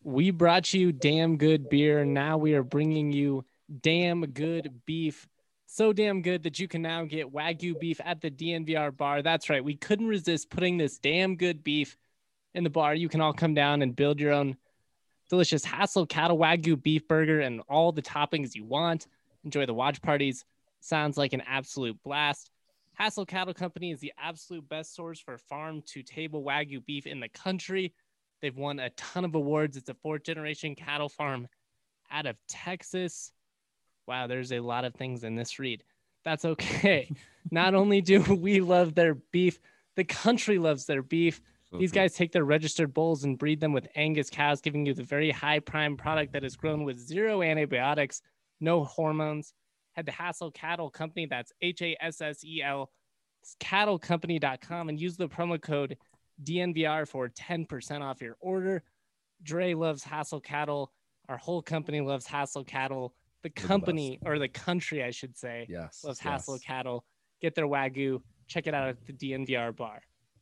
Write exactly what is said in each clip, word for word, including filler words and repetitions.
We brought you damn good beer. Now we are bringing you damn good beef. So damn good that you can now get Wagyu beef at the D N V R bar. That's right. We couldn't resist putting this damn good beef in the bar. You can all come down and build your own delicious Hassel Cattle Wagyu beef burger and all the toppings you want. Enjoy the watch parties. Sounds like an absolute blast. Hassel Cattle Company is the absolute best source for farm to table Wagyu beef in the country. They've won a ton of awards. It's a fourth generation cattle farm out of Texas. Wow, there's a lot of things in this read. That's okay. Not only do we love their beef, the country loves their beef. These guys take their registered bulls and breed them with Angus cows, giving you the very high prime product that is grown with zero antibiotics, no hormones. Head to Hassel Cattle Company, that's H A S S E L, cattle company dot com, and use the promo code D N V R for ten percent off your order. Dre loves Hassel Cattle. Our whole company loves Hassel Cattle. The company, the or the country, I should say, yes, loves yes. Hassel Cattle. Get their Wagyu. Check it out at the D N V R bar.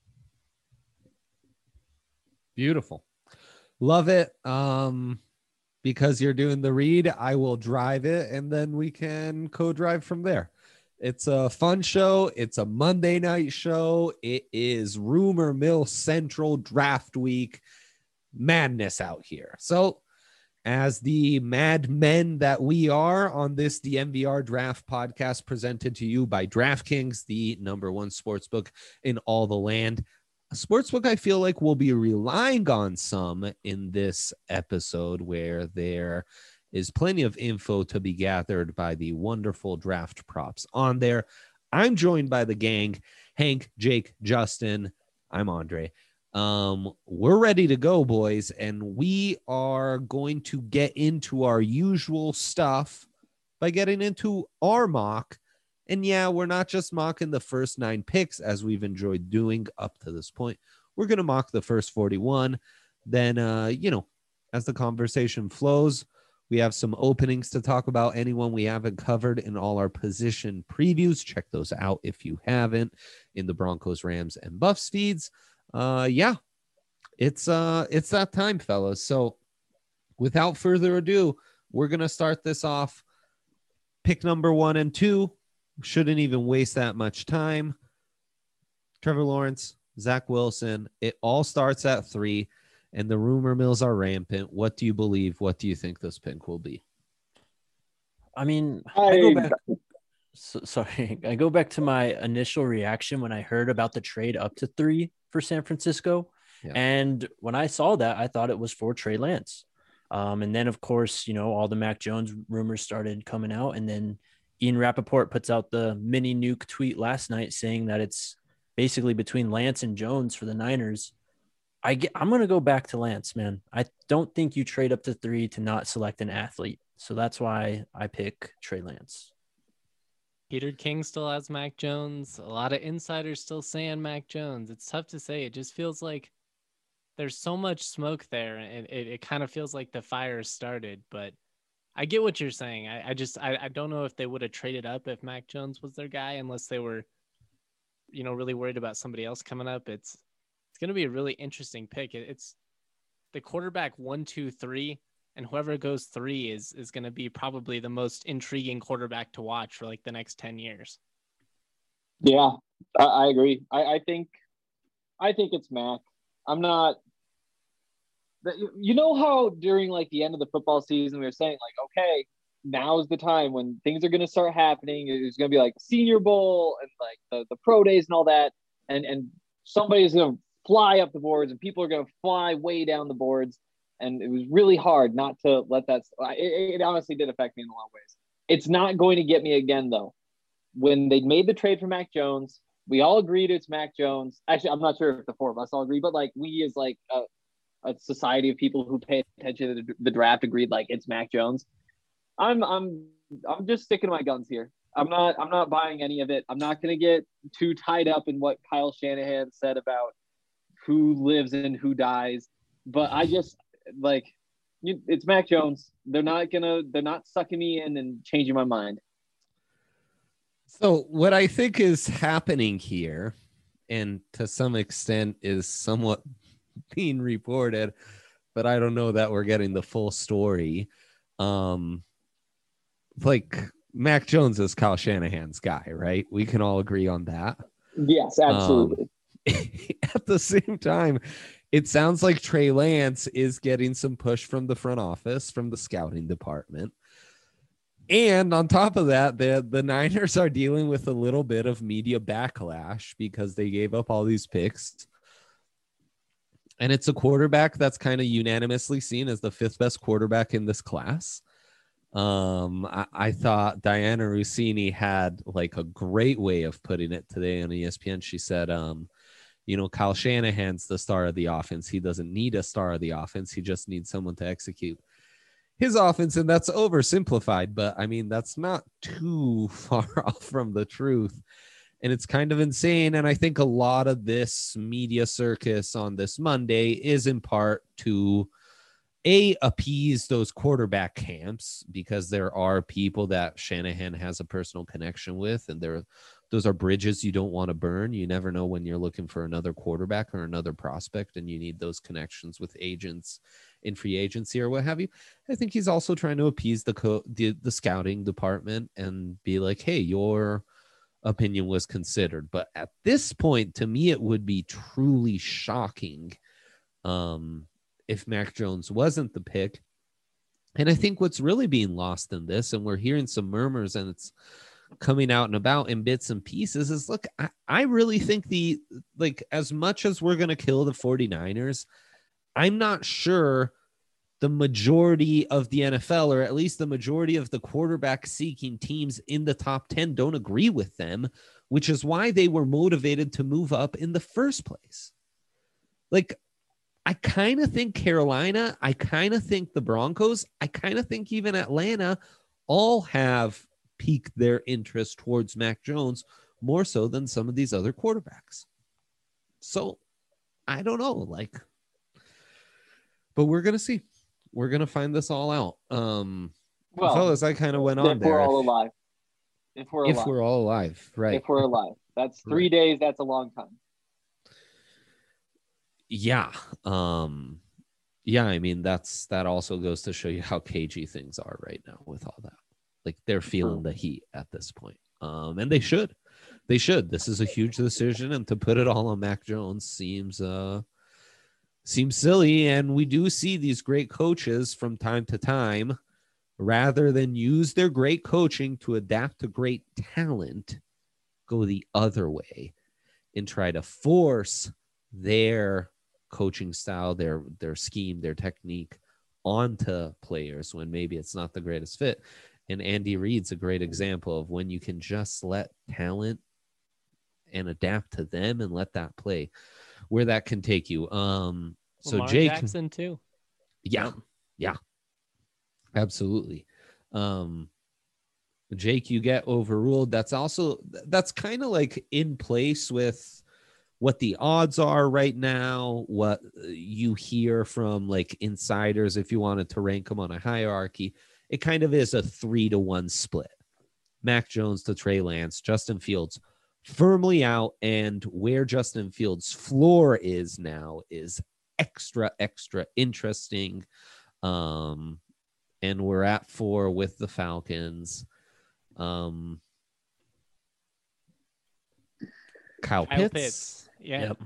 Beautiful. Love it. Um, because you're doing the read, I will drive it, and then we can co-drive from there. It's a fun show. It's a Monday night show. It is Rumor Mill Central Draft Week. Madness out here. So as the mad men that we are on this D N V R Draft podcast presented to you by DraftKings, the number one sportsbook in all the land, a sportsbook I feel like we'll be relying on some in this episode, where there is plenty of info to be gathered by the wonderful draft props on there. I'm joined by the gang, Hank, Jake, Justin. I'm Andre. Um, we're ready to go, boys, and we are going to get into our usual stuff by getting into our mock. And yeah, we're not just mocking the first nine picks as we've enjoyed doing up to this point. We're going to mock the first forty-one. Then, uh, you know, as the conversation flows, we have some openings to talk about. Anyone we haven't covered in all our position previews, check those out if you haven't, in the Broncos, Rams, and Buffs feeds. Uh, yeah, it's uh, it's that time, fellas. So without further ado, we're going to start this off. Pick number one and two. Shouldn't even waste that much time. Trevor Lawrence, Zach Wilson. It all starts at three, and the rumor mills are rampant. What do you believe? What do you think this pick will be? I mean, I, I go back. So, sorry, I go back to my initial reaction when I heard about the trade up to three for San Francisco. Yeah. And when I saw that, I thought it was for Trey Lance. Um, and then, of course, you know, all the Mac Jones rumors started coming out. And then Ian Rappaport puts out the mini nuke tweet last night saying that it's basically between Lance and Jones for the Niners. I get, I'm going to go back to Lance, man. I don't think you trade up to three to not select an athlete. So that's why I pick Trey Lance. Peter King still has Mac Jones. A lot of insiders still saying Mac Jones. It's tough to say. It just feels like there's so much smoke there, and it, it kind of feels like the fire started. But I get what you're saying. I, I just I, I don't know if they would have traded up if Mac Jones was their guy, unless they were, you know, really worried about somebody else coming up. It's it's going to be a really interesting pick. It, it's the quarterback one, two, three. And whoever goes three is is going to be probably the most intriguing quarterback to watch for like the next ten years. Yeah, I, I agree. I, I think, I think it's Mac. I'm not. You know how during like the end of the football season we were saying like, okay, now's the time when things are going to start happening. It's going to be like Senior Bowl and like the, the pro days and all that, and and somebody's going to fly up the boards and people are going to fly way down the boards. And it was really hard not to let that – it honestly did affect me in a lot of ways. It's not going to get me again, though. When they made the trade for Mac Jones, we all agreed it's Mac Jones. Actually, I'm not sure if the four of us all agree, but, like, we as, like, a, a society of people who pay attention to the, the draft agreed, like, it's Mac Jones. I'm I'm I'm just sticking to my guns here. I'm not I'm not buying any of it. I'm not going to get too tied up in what Kyle Shanahan said about who lives and who dies. But I just – like you, it's Mac Jones. They're not gonna they're not sucking me in and changing my mind. So what I think is happening here, and to some extent is somewhat being reported, but I don't know that we're getting the full story. Um, like Mac Jones is Kyle Shanahan's guy, right? We can all agree on that. Yes, absolutely. Um, at the same time, it sounds like Trey Lance is getting some push from the front office, from the scouting department. And on top of that, the, the Niners are dealing with a little bit of media backlash because they gave up all these picks. And it's a quarterback that's kind of unanimously seen as the fifth best quarterback in this class. Um, I, I thought Diana Rossini had like a great way of putting it today on E S P N. She said, um, you know, Kyle Shanahan's the star of the offense. He doesn't need a star of the offense. He just needs someone to execute his offense. And that's oversimplified, but I mean, that's not too far off from the truth. And it's kind of insane. And I think a lot of this media circus on this Monday is in part to A, appease those quarterback camps, because there are people that Shanahan has a personal connection with, and there, those are bridges you don't want to burn. You never know when you're looking for another quarterback or another prospect, and you need those connections with agents in free agency or what have you. I think he's also trying to appease the co- the, the scouting department and be like, hey, your opinion was considered. But at this point, to me, it would be truly shocking um, if Mac Jones wasn't the pick. And I think what's really being lost in this, and we're hearing some murmurs and it's coming out and about in bits and pieces, is look, I, I really think the, like, as much as we're going to kill the 49ers, I'm not sure the majority of the N F L, or at least the majority of the quarterback seeking teams in the top ten, don't agree with them, which is why they were motivated to move up in the first place. Like, I kind of think Carolina, I kind of think the Broncos, I kind of think even Atlanta all have piqued their interest towards Mac Jones more so than some of these other quarterbacks. So I don't know, like, but we're going to see. We're going to find this all out. Um, well, fellas, I kind of went on if there. We're all alive. If we're if alive. we're all alive, right. If we're alive. That's three right. days. That's a long time. Yeah. Um, yeah. I mean, that's, that also goes to show you how cagey things are right now with all that. Like, they're feeling the heat at this point. Um, and they should, they should, this is a huge decision, and to put it all on Mac Jones seems, uh, seems silly. And we do see these great coaches from time to time, rather than use their great coaching to adapt to great talent, go the other way and try to force their coaching style, their, their scheme, their technique onto players when maybe it's not the greatest fit. And Andy Reid's a great example of when you can just let talent and adapt to them and let that play, where that can take you. Um, so Lamar Jake Jackson too. Yeah. Yeah, absolutely. Um, Jake, you get overruled. That's also, that's kind of like in place with what the odds are right now, what you hear from like insiders, if you wanted to rank them on a hierarchy. It kind of is a three to one split. Mac Jones to Trey Lance, Justin Fields firmly out. And where Justin Fields' floor is now is extra, extra interesting. Um, and we're at four with the Falcons. Um, Kyle, Kyle Pitts. Pitts. Yeah. Yep.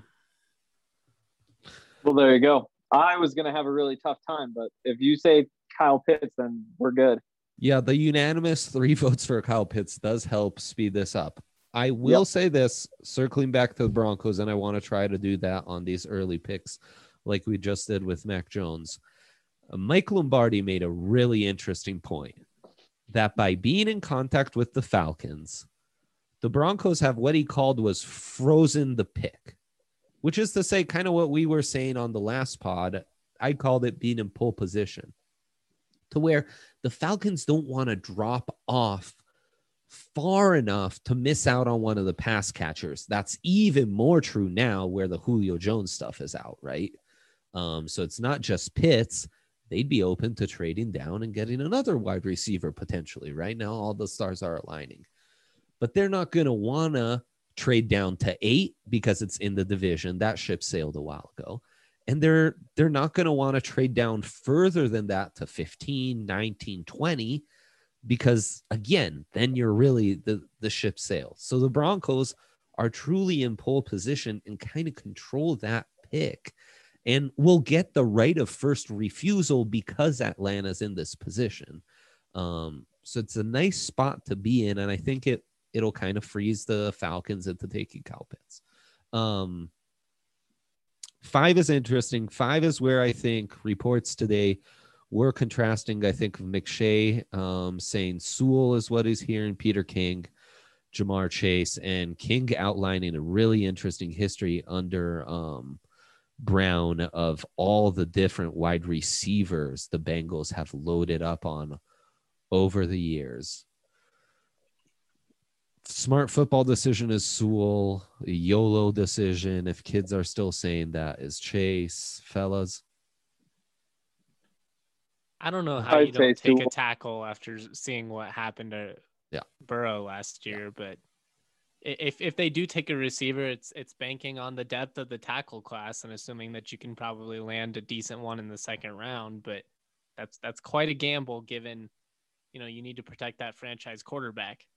Well, there you go. I was going to have a really tough time, but if you say Kyle Pitts, then we're good. Yeah, the unanimous three votes for Kyle Pitts does help speed this up. I will yep. say this, circling back to the Broncos, and I want to try to do that on these early picks like we just did with Mac Jones. Uh, Mike Lombardi made a really interesting point that by being in contact with the Falcons, the Broncos have what he called was frozen the pick, which is to say kind of what we were saying on the last pod. I called it being in pole position, to where the Falcons don't want to drop off far enough to miss out on one of the pass catchers. That's even more true now where the Julio Jones stuff is out, right? Um, so it's not just Pitts. They'd be open to trading down and getting another wide receiver potentially. Right now, all the stars are aligning. But they're not going to want to trade down to eight because it's in the division. That ship sailed a while ago. And they're they're not going to want to trade down further than that to fifteen, nineteen, twenty, because again, then you're really the the ship sails. So the Broncos are truly in pole position and kind of control that pick, and will get the right of first refusal because Atlanta's in this position. Um, so it's a nice spot to be in, and I think it it'll kind of freeze the Falcons into taking Kyle Pitts. Um, five is interesting. Five is where I think reports today were contrasting. I think of McShay um, saying Sewell is what he's hearing, Peter King, Jamar Chase, and King outlining a really interesting history under um, Brown of all the different wide receivers the Bengals have loaded up on over the years. Smart football decision is Sewell. A YOLO decision, if kids are still saying that, is Chase. Fellas, I don't know how I'd you don't say take Sewell. a tackle after seeing what happened to Yeah. Burrow last year, but i- if if they do take a receiver, it's it's banking on the depth of the tackle class and assuming that you can probably land a decent one in the second round. But that's that's quite a gamble, given you know you need to protect that franchise quarterback.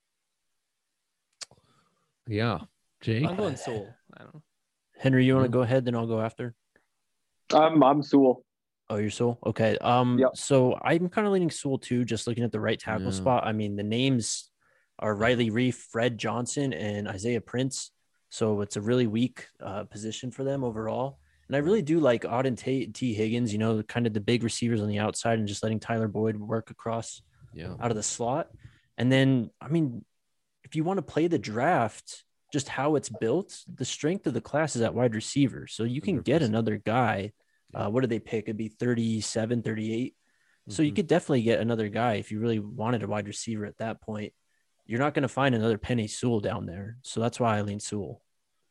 yeah, Jake. I'm going Sewell. I don't know. Henry, you want to Mhm. go ahead, then I'll go after. I'm I'm Sewell. Oh, you're Sewell? Okay. Um, Yep. so I'm kind of leaning Sewell too, just looking at the right tackle Yeah. spot. I mean, the names are Riley Reef, Fred Johnson, and Isaiah Prince. So it's a really weak uh, position for them overall. And I really do like Auden Tate, T. Higgins, you know, kind of the big receivers on the outside and just letting Tyler Boyd work across Yeah, out of the slot. And then, I mean, if you want to play the draft, just how it's built, the strength of the class is at wide receiver. So you can one hundred get percent. another guy. Uh, what did they pick? It'd be thirty-seven, thirty-eight. So you Mhm. could definitely get another guy if you really wanted a wide receiver at that point. You're not going to find another Penny Sewell down there. So that's why I lean Sewell.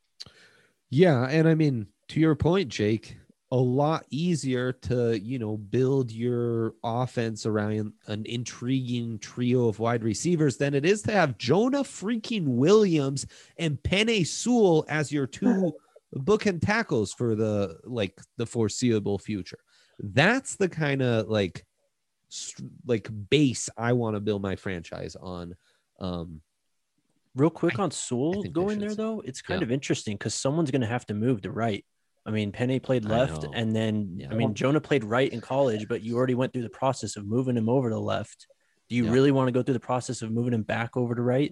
Yeah, and I mean, to your point, Jake, a lot easier to, you know, build your offense around an intriguing trio of wide receivers than it is to have Jonah freaking Williams and Penei Sewell as your two bookend tackles for the like the foreseeable future. That's the kind of like st- like base I want to build my franchise on. Um, Real quick I- on Sewell think they going should there, say- though, it's kind Yeah. of interesting because someone's going to have to move to right. I mean, Penny played I left, know. and then, Yeah. I mean, Jonah played right in college, but you already went through the process of moving him over to left. Do you Yeah. really want to go through the process of moving him back over to right?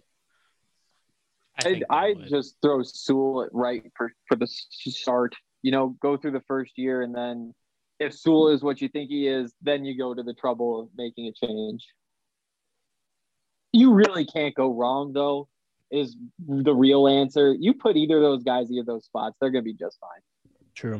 I I'd, think they I'd would. just throw Sewell at right for, for the s- start. You know, go through the first year, and then if Sewell is what you think he is, then you go to the trouble of making a change. You really can't go wrong, though, is the real answer. You put either of those guys, either of those spots, they're going to be just fine. True.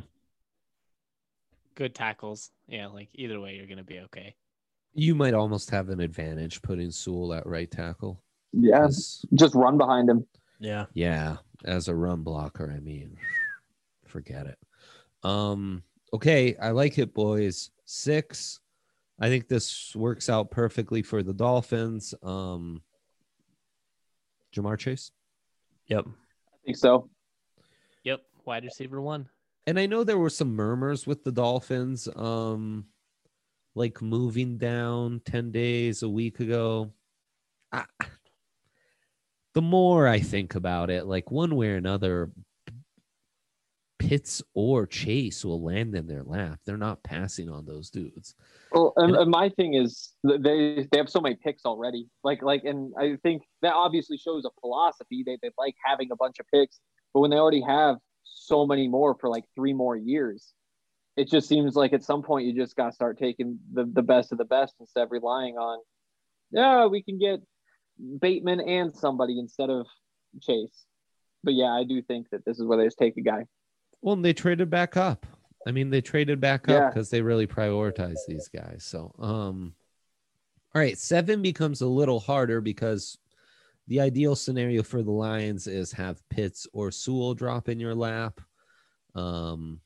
Good tackles. Yeah, like either way, you're gonna be okay. You might almost have an advantage putting Sewell at right tackle. Yeah, 'Cause, just run behind him. Yeah. yeah, as a run blocker, I mean, forget it. Um, okay, I like it, boys. Six. I think this works out perfectly for the Dolphins. Um, Jamar Chase. Yep. I think so. Yep, wide receiver one. And I know there were some murmurs with the Dolphins, um, like moving down ten days a week ago. I, the more I think about it, like one way or another, Pitts or Chase will land in their lap. They're not passing on those dudes. Well, and, And- and my thing is th- they they have so many picks already. Like like, and I think that obviously shows a philosophy. They they like having a bunch of picks, but when they already have so many more for like three more years, it just seems like at some point you just got to start taking the the best of the best instead of relying on, yeah, we can get Bateman and somebody instead of Chase. But yeah, I do think that this is where they just take a guy. Well, and they traded back up. I mean, they traded back up Yeah. because they really prioritize these guys. So, um, all right, seven becomes a little harder because the ideal scenario for the Lions is have Pitts or Sewell drop in your lap. Um,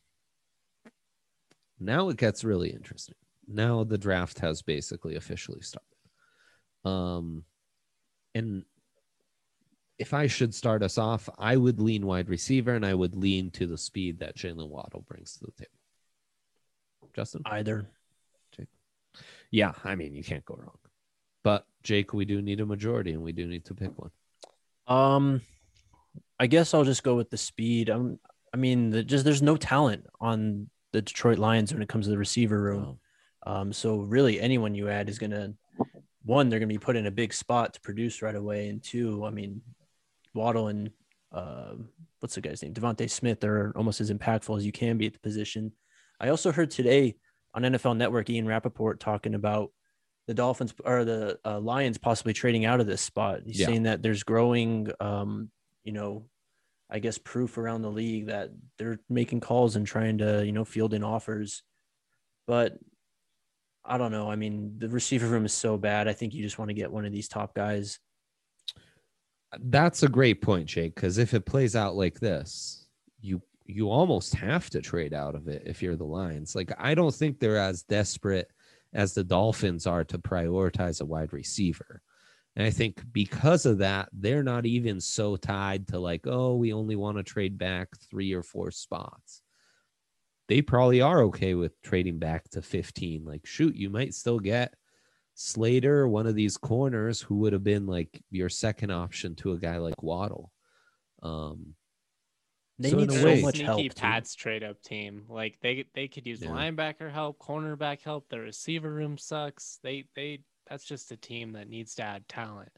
now it gets really interesting. Now the draft has basically officially started. Um, and if I should start us off, I would lean wide receiver, and I would lean to the speed that Jalen Waddle brings to the table. Justin? Either. Jake? Yeah, I mean, you can't go wrong. But, Jake, we do need a majority, and we do need to pick one. Um, I guess I'll just go with the speed. Um, I mean, the, just there's no talent on the Detroit Lions when it comes to the receiver room. Oh. Um, so really anyone you add is going to, one, they're going to be put in a big spot to produce right away. And two, I mean, Waddle and uh, what's the guy's name? Devontae Smith are almost as impactful as you can be at the position. I also heard today on N F L Network, Ian Rappaport talking about the Dolphins or the uh, Lions possibly trading out of this spot. He's yeah. saying that there's growing, um, you know, I guess proof around the league that they're making calls and trying to, you know, field in offers. But I don't know. I mean, the receiver room is so bad. I think you just want to get one of these top guys. That's a great point, Jake, because if it plays out like this, you you almost have to trade out of it if you're the Lions. Like, I don't think they're as desperate as the Dolphins are to prioritize a wide receiver. And I think because of that, they're not even so tied to like, oh, we only want to trade back three or four spots. They probably are okay with trading back to fifteen. Like, shoot, you might still get Slater, one of these corners who would have been like your second option to a guy like Waddle. Um, they so need so way, much sneaky help. Pats trade up team. Like they they could use yeah. linebacker help, cornerback help. The receiver room sucks. They they that's just a team that needs to add talent.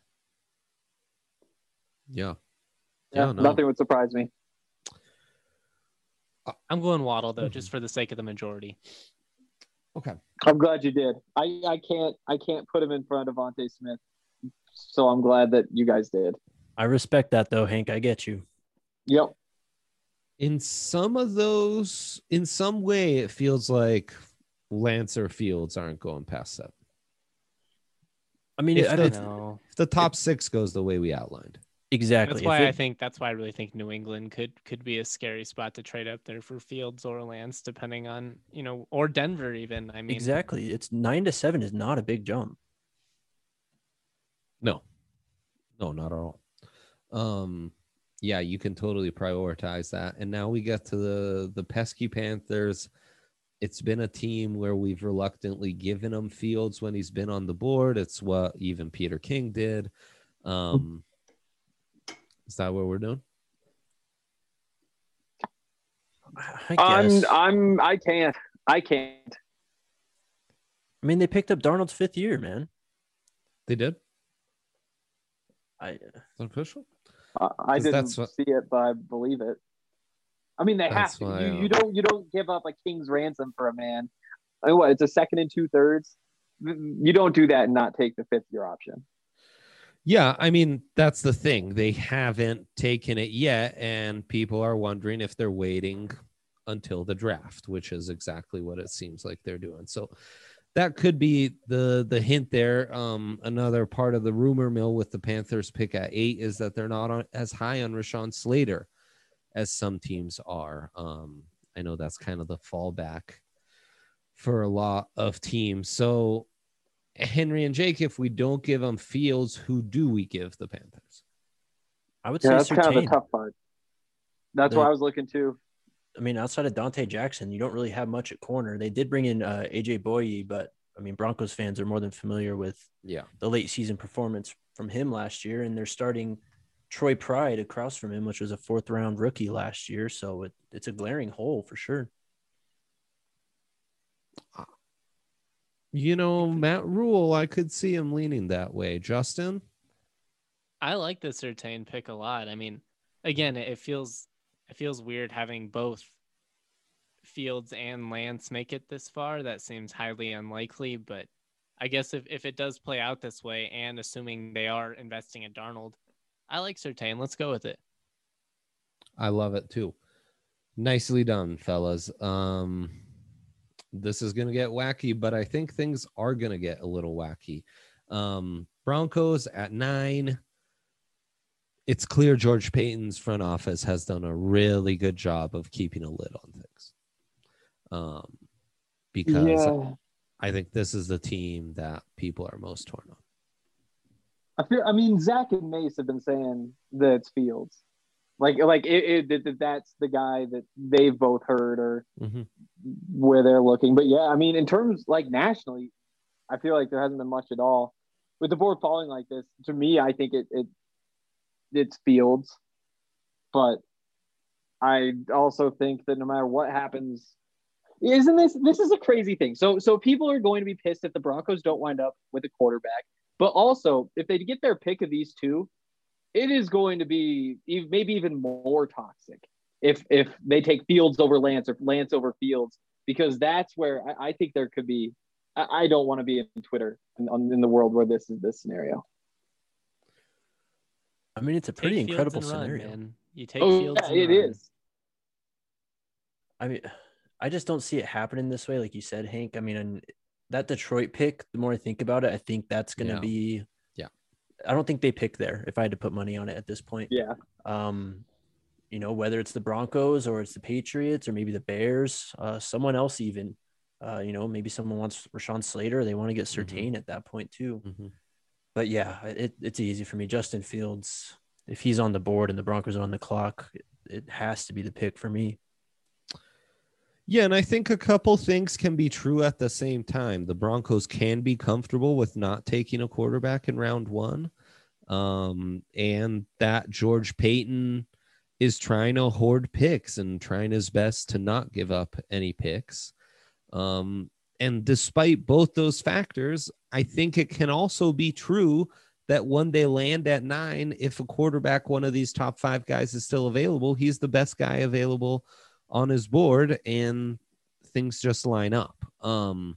Yeah, yeah, yeah no. Nothing would surprise me. I'm going Waddle though, mm-hmm. just for the sake of the majority. Okay. I'm glad you did. I, I can't I can't put him in front of Devontae Smith. So I'm glad that you guys did. I respect that though, Hank. I get you. Yep. In some of those, in some way, it feels like Lance or Fields aren't going past seven. I mean, if I the, don't know. If the top six goes the way we outlined. Exactly. That's why it, I think that's why I really think New England could could be a scary spot to trade up there for Fields or Lance, depending on, you know, or Denver even. I mean, exactly. It's nine to seven is not a big jump. No, no, not at all. Um, yeah, you can totally prioritize that. And now we get to the the pesky Panthers. It's been a team where we've reluctantly given him Fields when he's been on the board. It's what even Peter King did. Um, Is that what we're doing? I guess. I'm, I'm, I can't. I can't. I mean, they picked up Darnold's fifth year, man. They did? I. Is that official? Uh, I didn't what, see it, but I believe it. I mean, they have to. You, you don't. You don't give up a king's ransom for a man. I mean, what? It's a second and two thirds. You don't do that and not take the fifth year option. Yeah, I mean, that's the thing. They haven't taken it yet, and people are wondering if they're waiting until the draft, which is exactly what it seems like they're doing. So that could be the the hint there. Um, another part of the rumor mill with the Panthers pick at eight is that they're not on, as high on Rashawn Slater as some teams are. Um, I know that's kind of the fallback for a lot of teams. So Henry and Jake, if we don't give them Fields, who do we give the Panthers? I would yeah, say that's Surtain. kind of a tough part. That's the, what I was looking to. I mean, outside of Dante Jackson, you don't really have much at corner. They did bring in uh, A J Boye, but I mean, Broncos fans are more than familiar with yeah. the late season performance from him last year, and they're starting Troy Pride across from him, which was a fourth round rookie last year. So it, it's a glaring hole for sure. You know, Matt Rule, I could see him leaning that way. Justin? I like the Surtain pick a lot. I mean, again, it feels it feels weird having both Fields and Lance make it this far. That seems highly unlikely, but I guess if, if it does play out this way, and assuming they are investing in Darnold, I like Surtain. Let's go with it. I love it too. Nicely done, fellas. Um... This is going to get wacky, but I think things are going to get a little wacky. Um, Broncos at nine. It's clear George Payton's front office has done a really good job of keeping a lid on things. Um, because yeah. I think this is the team that people are most torn on. I feel. I mean, Zach and Mace have been saying that it's Fields. Like, like it, it, it, that's the guy that they've both heard or mm-hmm. where they're looking. But yeah, I mean, in terms like nationally, I feel like there hasn't been much at all. With the board falling like this, to me, I think it, it it's Fields. But I also think that no matter what happens, isn't this this is a crazy thing. So so people are going to be pissed if the Broncos don't wind up with a quarterback. But also, if they get their pick of these two, it is going to be maybe even more toxic if if they take Fields over Lance or Lance over Fields, because that's where I, I think there could be. I, I don't want to be in Twitter in, in the world where this is this scenario. I mean, it's a pretty take incredible run, scenario. Man. You take oh, Fields. Yeah, it run. is. I mean, I just don't see it happening this way, like you said, Hank. I mean, and that Detroit pick, the more I think about it, I think that's going to yeah. be. Yeah. I don't think they pick there if I had to put money on it at this point. Yeah. Um, you know, whether it's the Broncos or it's the Patriots or maybe the Bears, uh, someone else even. Uh, you know, maybe someone wants Rashawn Slater. They want to get Surtain mm-hmm. at that point too. Mm-hmm. But yeah, it, it's easy for me. Justin Fields, if he's on the board and the Broncos are on the clock, it, it has to be the pick for me. Yeah, and I think a couple things can be true at the same time. The Broncos can be comfortable with not taking a quarterback in round one, um, and that George Payton is trying to hoard picks and trying his best to not give up any picks. Um, and despite both those factors, I think it can also be true that when they land at nine, if a quarterback, one of these top five guys is still available, he's the best guy available on his board, and things just line up. Um,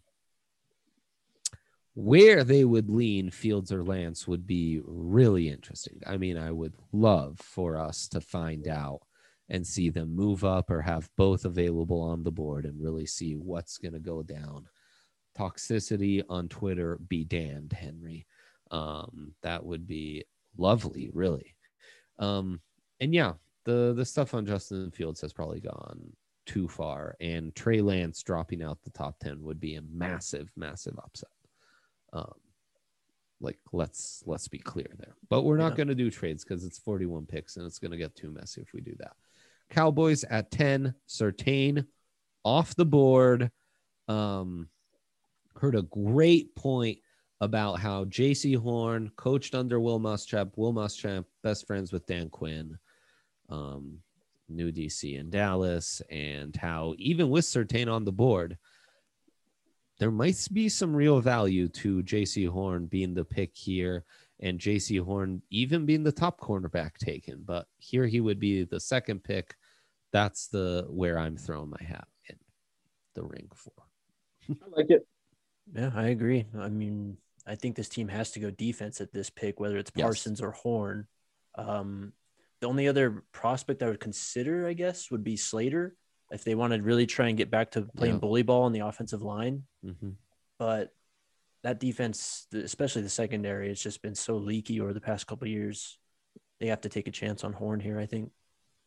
where they would lean Fields or Lance would be really interesting. I mean, I would love for us to find out and see them move up or have both available on the board and really see what's going to go down. Toxicity on Twitter be damned, Henry. Um, that would be lovely, really. Um, and yeah, the the stuff on Justin Fields has probably gone too far, and Trey Lance dropping out the top ten would be a massive, massive upset. Um, like let's let's be clear there, but we're not yeah. going to do trades because it's forty-one picks and it's going to get too messy if we do that. Cowboys at ten, Surtain off the board. Um, heard a great point about how J C Horn coached under Will Muschamp. Will Muschamp, best friends with Dan Quinn, um, new D C in Dallas, and how even with Surtain on the board, there might be some real value to J C Horn being the pick here, and J C Horn even being the top cornerback taken. But here he would be the second pick. That's the where I'm throwing my hat in the ring for. I like it. Yeah, I agree. I mean, I think this team has to go defense at this pick, whether it's Parsons yes. or Horn. Um, the only other prospect I would consider, I guess, would be Slater if they want to really try and get back to playing yeah. bully ball on the offensive line. Mm-hmm. But that defense, especially the secondary, has just been so leaky over the past couple of years. They have to take a chance on Horn here, I think.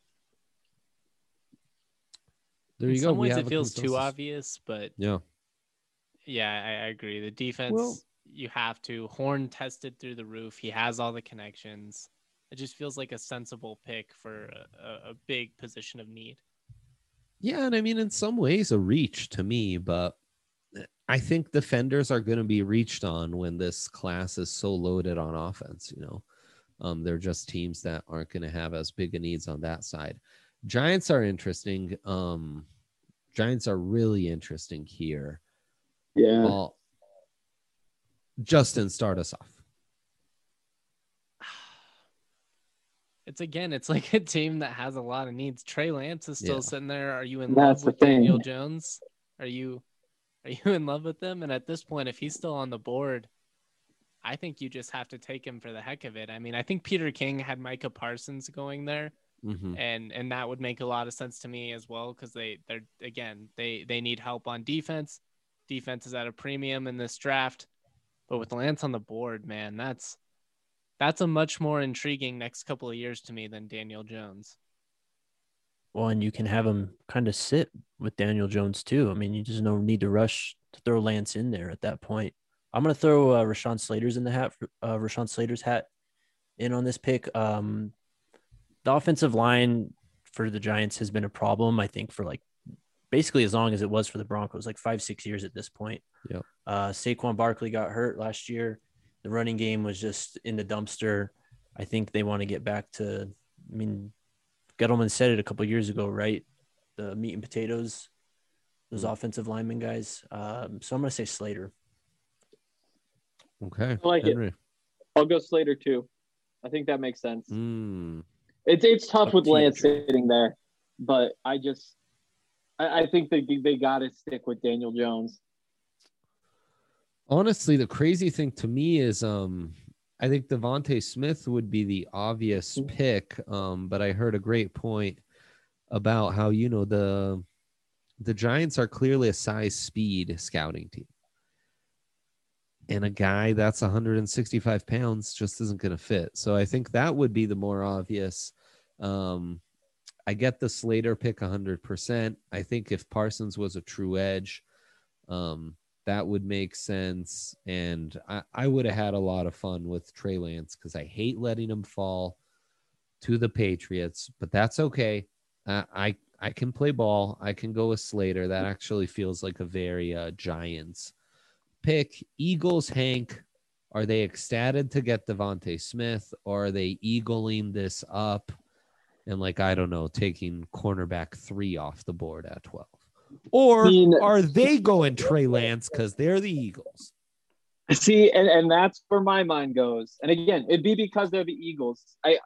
There you In go. some we ways, it feels too obvious, but yeah, yeah, I, I agree. The defense, well, you have to. Horn tested through the roof. He has all the connections. It just feels like a sensible pick for a, a big position of need. Yeah, and I mean, in some ways, a reach to me, but I think defenders are going to be reached on when this class is so loaded on offense. You know, um, they're just teams that aren't going to have as big a needs on that side. Giants are interesting. Um, Giants are really interesting here. Yeah. Well, Justin, start us off. It's again, it's like a team that has a lot of needs. Trey Lance is still yeah. sitting there. Are you in That's love with Daniel Jones? Are you are you in love with him? And at this point, if he's still on the board, I think you just have to take him for the heck of it. I mean, I think Peter King had Micah Parsons going there. Mm-hmm. And and that would make a lot of sense to me as well, because they they're again they they need help on defense. Defense is at a premium in this draft, but with Lance on the board, man, that's that's a much more intriguing next couple of years to me than Daniel Jones. Well, and you can have him kind of sit with Daniel Jones too. I mean, you just don't need to rush to throw Lance in there at that point. I'm gonna throw uh, Rashawn Slater's in the hat. For, uh, Rashawn Slater's hat in on this pick. Um, the offensive line for the Giants has been a problem, I think, for like basically as long as it was for the Broncos, like five, six years at this point. Yeah. Uh, Saquon Barkley got hurt last year. The running game was just in the dumpster. I think they want to get back to. I mean, Gettleman said it a couple of years ago, right? The meat and potatoes, those mm. offensive lineman guys. Um, so I'm gonna say Slater. Okay. I like Henry. it. I'll go Slater too. I think that makes sense. Mm. It's it's tough Up with to you, Lance Trey. sitting there, but I just I, I think they they got to stick with Daniel Jones. Honestly, the crazy thing to me is um I think Devontae Smith would be the obvious pick, um, but I heard a great point about how, you know, the the Giants are clearly a size speed scouting team. And a guy that's one hundred sixty-five pounds just isn't going to fit. So I think that would be the more obvious. Um, I get the Slater pick one hundred percent. I think if Parsons was a true edge, um, that would make sense. And I, I would have had a lot of fun with Trey Lance because I hate letting him fall to the Patriots, but that's okay. Uh, I, I can play ball. I can go with Slater. That actually feels like a very uh, Giants pick. Eagles, Hank, are they ecstatic to get Devontae Smith, or are they eagling this up and, like, I don't know, taking cornerback three off the board at twelve? Or I mean, are they going Trey Lance because they're the Eagles? See, and, and that's where my mind goes. And again, it'd be because they're the Eagles. I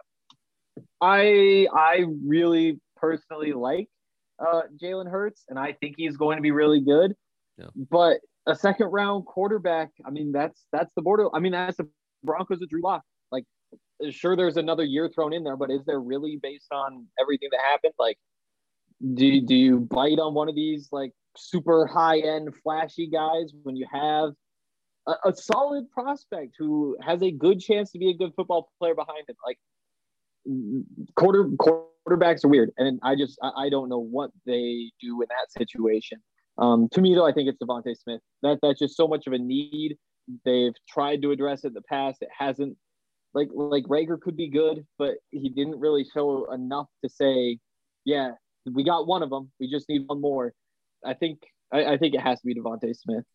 I I really personally like uh, Jalen Hurts, and I think he's going to be really good. Yeah. But a second round quarterback, I mean, that's that's the border. I mean, that's the Broncos with Drew Lock. Like, sure, there's another year thrown in there, but is there really, based on everything that happened? Like, do do you bite on one of these like super high end flashy guys when you have a, a solid prospect who has a good chance to be a good football player behind him? Like, quarter quarterbacks are weird, and I just I, I don't know what they do in that situation. Um, to me, though, I think it's Devontae Smith. That that's just so much of a need. They've tried to address it in the past. It hasn't. Like like Rager could be good, but he didn't really show enough to say, yeah, we got one of them. We just need one more. I think I, I think it has to be Devontae Smith.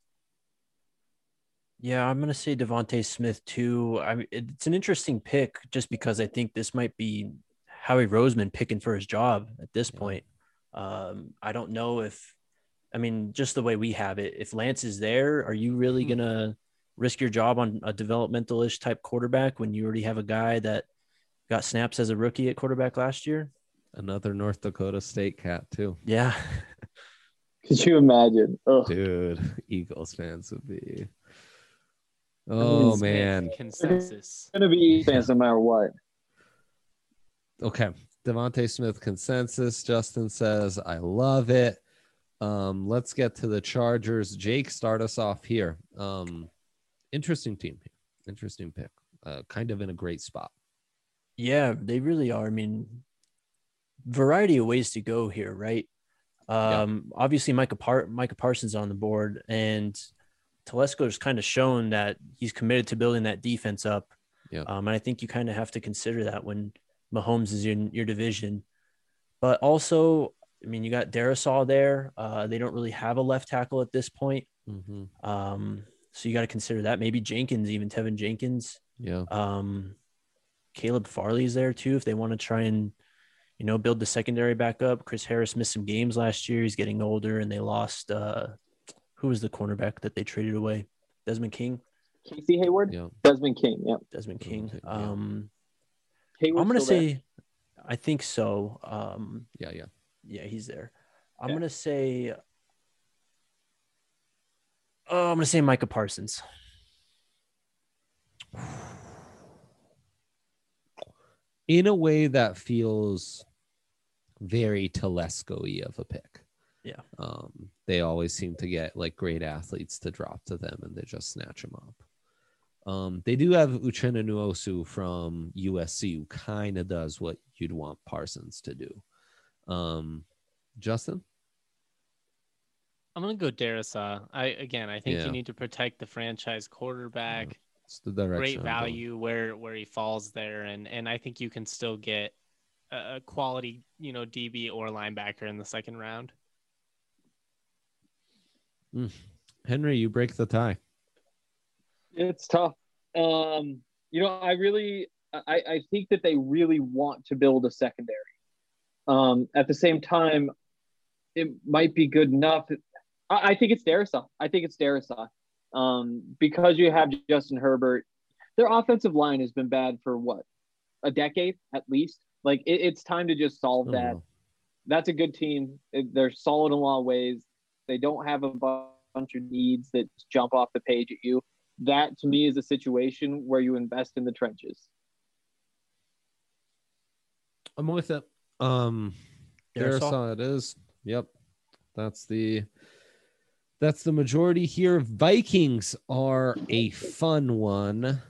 Yeah, I'm gonna say Devontae Smith too. I mean, it's an interesting pick just because I think this might be Howie Roseman picking for his job at this Yeah. point. Um, I don't know if, I mean, just the way we have it, if Lance is there, are you really Hmm. gonna risk your job on a developmental-ish type quarterback when you already have a guy that got snaps as a rookie at quarterback last year? Another North Dakota State cat, too. Yeah. Could you imagine? Ugh. Dude, Eagles fans would be. Oh, Smith, man. Consensus. It's gonna be fans no matter what. Okay. Devontae Smith consensus. Justin says, I love it. Um, let's get to the Chargers. Jake, start us off here. Um, interesting team here. Interesting pick. Uh, kind of in a great spot. Yeah, they really are. I mean, variety of ways to go here, right? Um, yeah. Obviously, Micah, Par- Micah Parsons on the board, and Telesco's kind of shown that he's committed to building that defense up. Yeah. Um, and I think you kind of have to consider that when Mahomes is in your division. But also, I mean, you got Darisaw there. Uh, they don't really have a left tackle at this point. Mm-hmm. Um, so you got to consider that. Maybe Jenkins, even Tevin Jenkins. Yeah. Um, Caleb Farley's there too if they want to try and, you know, build the secondary back up. Chris Harris missed some games last year. He's getting older, and they lost uh, – who was the cornerback that they traded away? Desmond King? Casey Hayward? Yeah. Desmond King, yeah. Desmond King. King, yeah. Um, Hayward's I'm going to still say there? – I think so. Um, Yeah, yeah. yeah, he's there. I'm Yeah. going to say – oh, I'm going to say Micah Parsons. In a way that feels very Telesco-y of a pick. Yeah. Um, they always seem to get like great athletes to drop to them, and they just snatch them up. Um, they do have Uchenna Nwosu from U S C, who kind of does what you'd want Parsons to do. Um, Justin? I'm gonna go Darrisaw. I again, I think Yeah. you need to protect the franchise quarterback. It's the direction. Great I'm value where where he falls there, and and I think you can still get a, a quality, you know, D B or linebacker in the second round. going. Mm. Henry, you break the tie. It's tough. Um, you know, I really, I, I think that they really want to build a secondary. Um, at the same time, it might be good enough. I, I think it's Darrisaw. I think it's Darrisaw. Um, because you have Justin Herbert, their offensive line has been bad for what, a decade at least. Like it, it's time to just solve Oh, that. wow. That's a good team. They're solid in a lot of ways. They don't have a bunch of needs that jump off the page at you. That to me is a situation where you invest in the trenches. I'm with it. Um, Darrisaw? Darrisaw it is. Yep. That's the that's the majority here. Vikings are a fun one.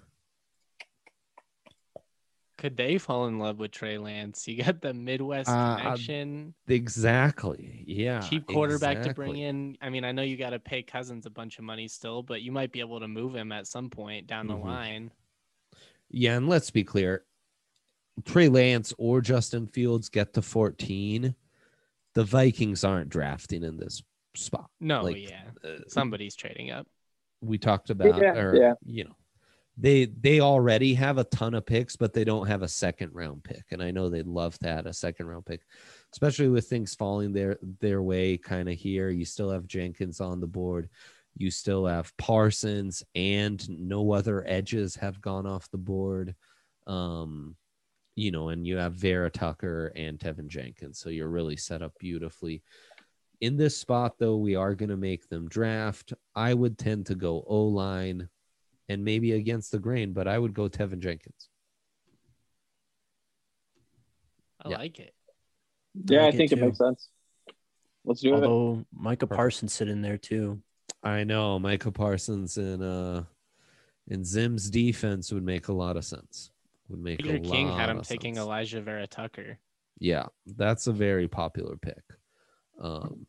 Could they fall in love with Trey Lance? You got the Midwest Uh, connection, Exactly. Yeah. cheap quarterback exactly. to bring in. I mean, I know you got to pay Cousins a bunch of money still, but you might be able to move him at some point down the Mhm. line. Yeah, and let's be clear. Trey Lance or Justin Fields get to fourteen. The Vikings aren't drafting in this spot. No, Like, yeah, uh, somebody's trading up. we talked about, Yeah, or yeah. you know, they they already have a ton of picks, but they don't have a second round pick. And I know they'd love to add a second round pick, especially with things falling their their way kind of here. You still have Jenkins on the board. You still have Parsons, and no other edges have gone off the board. Um, you know, and you have Vera Tucker and Tevin Jenkins. So you're really set up beautifully. In this spot, though, we are going to make them draft. I would tend to go O-line and maybe against the grain, but I would go Tevin Jenkins. I Yeah. like it. Yeah, I, like it think it too. makes sense. Let's do it. Although Micah Perfect. Parsons sit in there too. I know Micah Parsons and uh and Zim's defense would make a lot of sense. Would make Peter a lot King had him of taking sense. Elijah Vera Tucker. Yeah, that's a very popular pick. Um,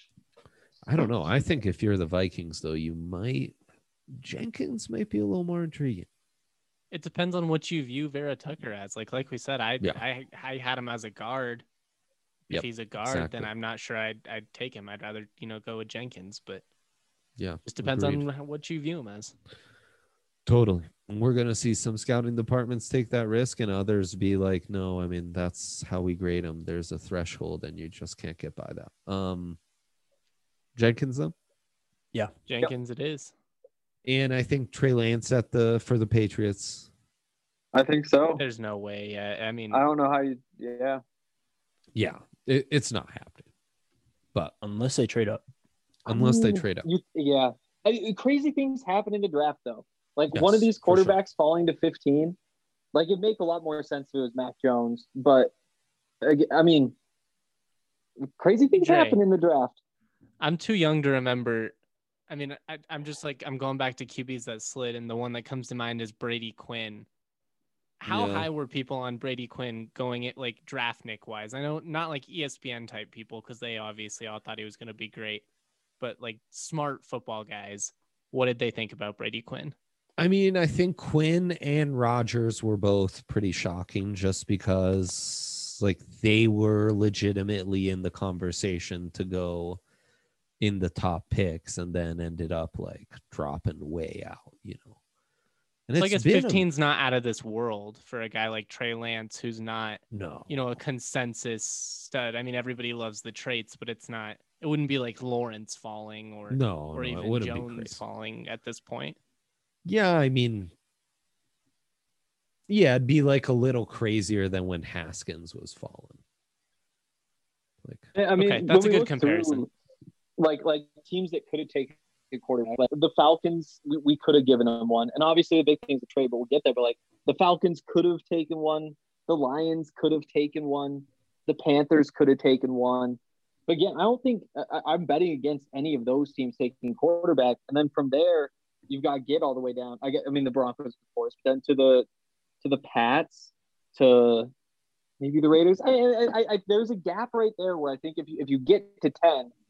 I don't know. I think if you're the Vikings, though, you might Jenkins might be a little more intriguing. It depends on what you view Vera Tucker as. Like like we said, I Yeah. I I had him as a guard. If Yep, he's a guard, exactly. then I'm not sure I'd I'd take him. I'd rather, you know, go with Jenkins, but Yeah, just depends agreed. on what you view him as. Totally. We're going to see some scouting departments take that risk and others be like, no, I mean, that's how we grade them. There's a threshold and you just can't get by that. Um, Jenkins, though? Yeah. Jenkins it is. And I think Trey Lance at the for the Patriots. I think so. There's no way. Yeah, I mean, I don't know how you. Yeah. Yeah, it, it's not happening. But Unless they trade up. unless they Ooh, trade up. You, yeah. I, crazy things happen in the draft, though. Like Yes, one of these for sure. quarterbacks falling to fifteen, like it'd make a lot more sense if it was Mac Jones. But ag- I mean, crazy things Jay. happen in the draft. I'm too young to remember. I mean, I, I'm just like, I'm going back to Q Bs that slid, and the one that comes to mind is Brady Quinn. How Yeah. high were people on Brady Quinn going it like draft Nick wise? I know not like E S P N type people, because they obviously all thought he was going to be great, but like smart football guys, what did they think about Brady Quinn? I mean, I think Quinn and Rodgers were both pretty shocking just because like they were legitimately in the conversation to go in the top picks and then ended up like dropping way out, you know. And So I guess been a- fifteen's not out of this world for a guy like Trey Lance, who's not, no, you know, a consensus stud. I mean, everybody loves the traits, but it's not, it wouldn't be like Lawrence falling or, no, or no, it even wouldn't be Jones crazy. falling at this point. Yeah, I mean, yeah, it'd be like a little crazier than when Haskins was falling. Like, I mean, Okay, that's when a we good look comparison. through, like like teams that could have taken a quarterback, like the Falcons, we, we could have given them one, and obviously the big thing's a trade, but we'll get there. But like the Falcons could have taken one, the Lions could have taken one, the Panthers could have taken one. But again, I don't think I, I'm betting against any of those teams taking quarterback, and then from there you've got to get all the way down. I get, I mean the Broncos, of course, but then to the to the Pats, to maybe the Raiders. I, I, I, I, there's a gap right there where I think if you if you get to ten,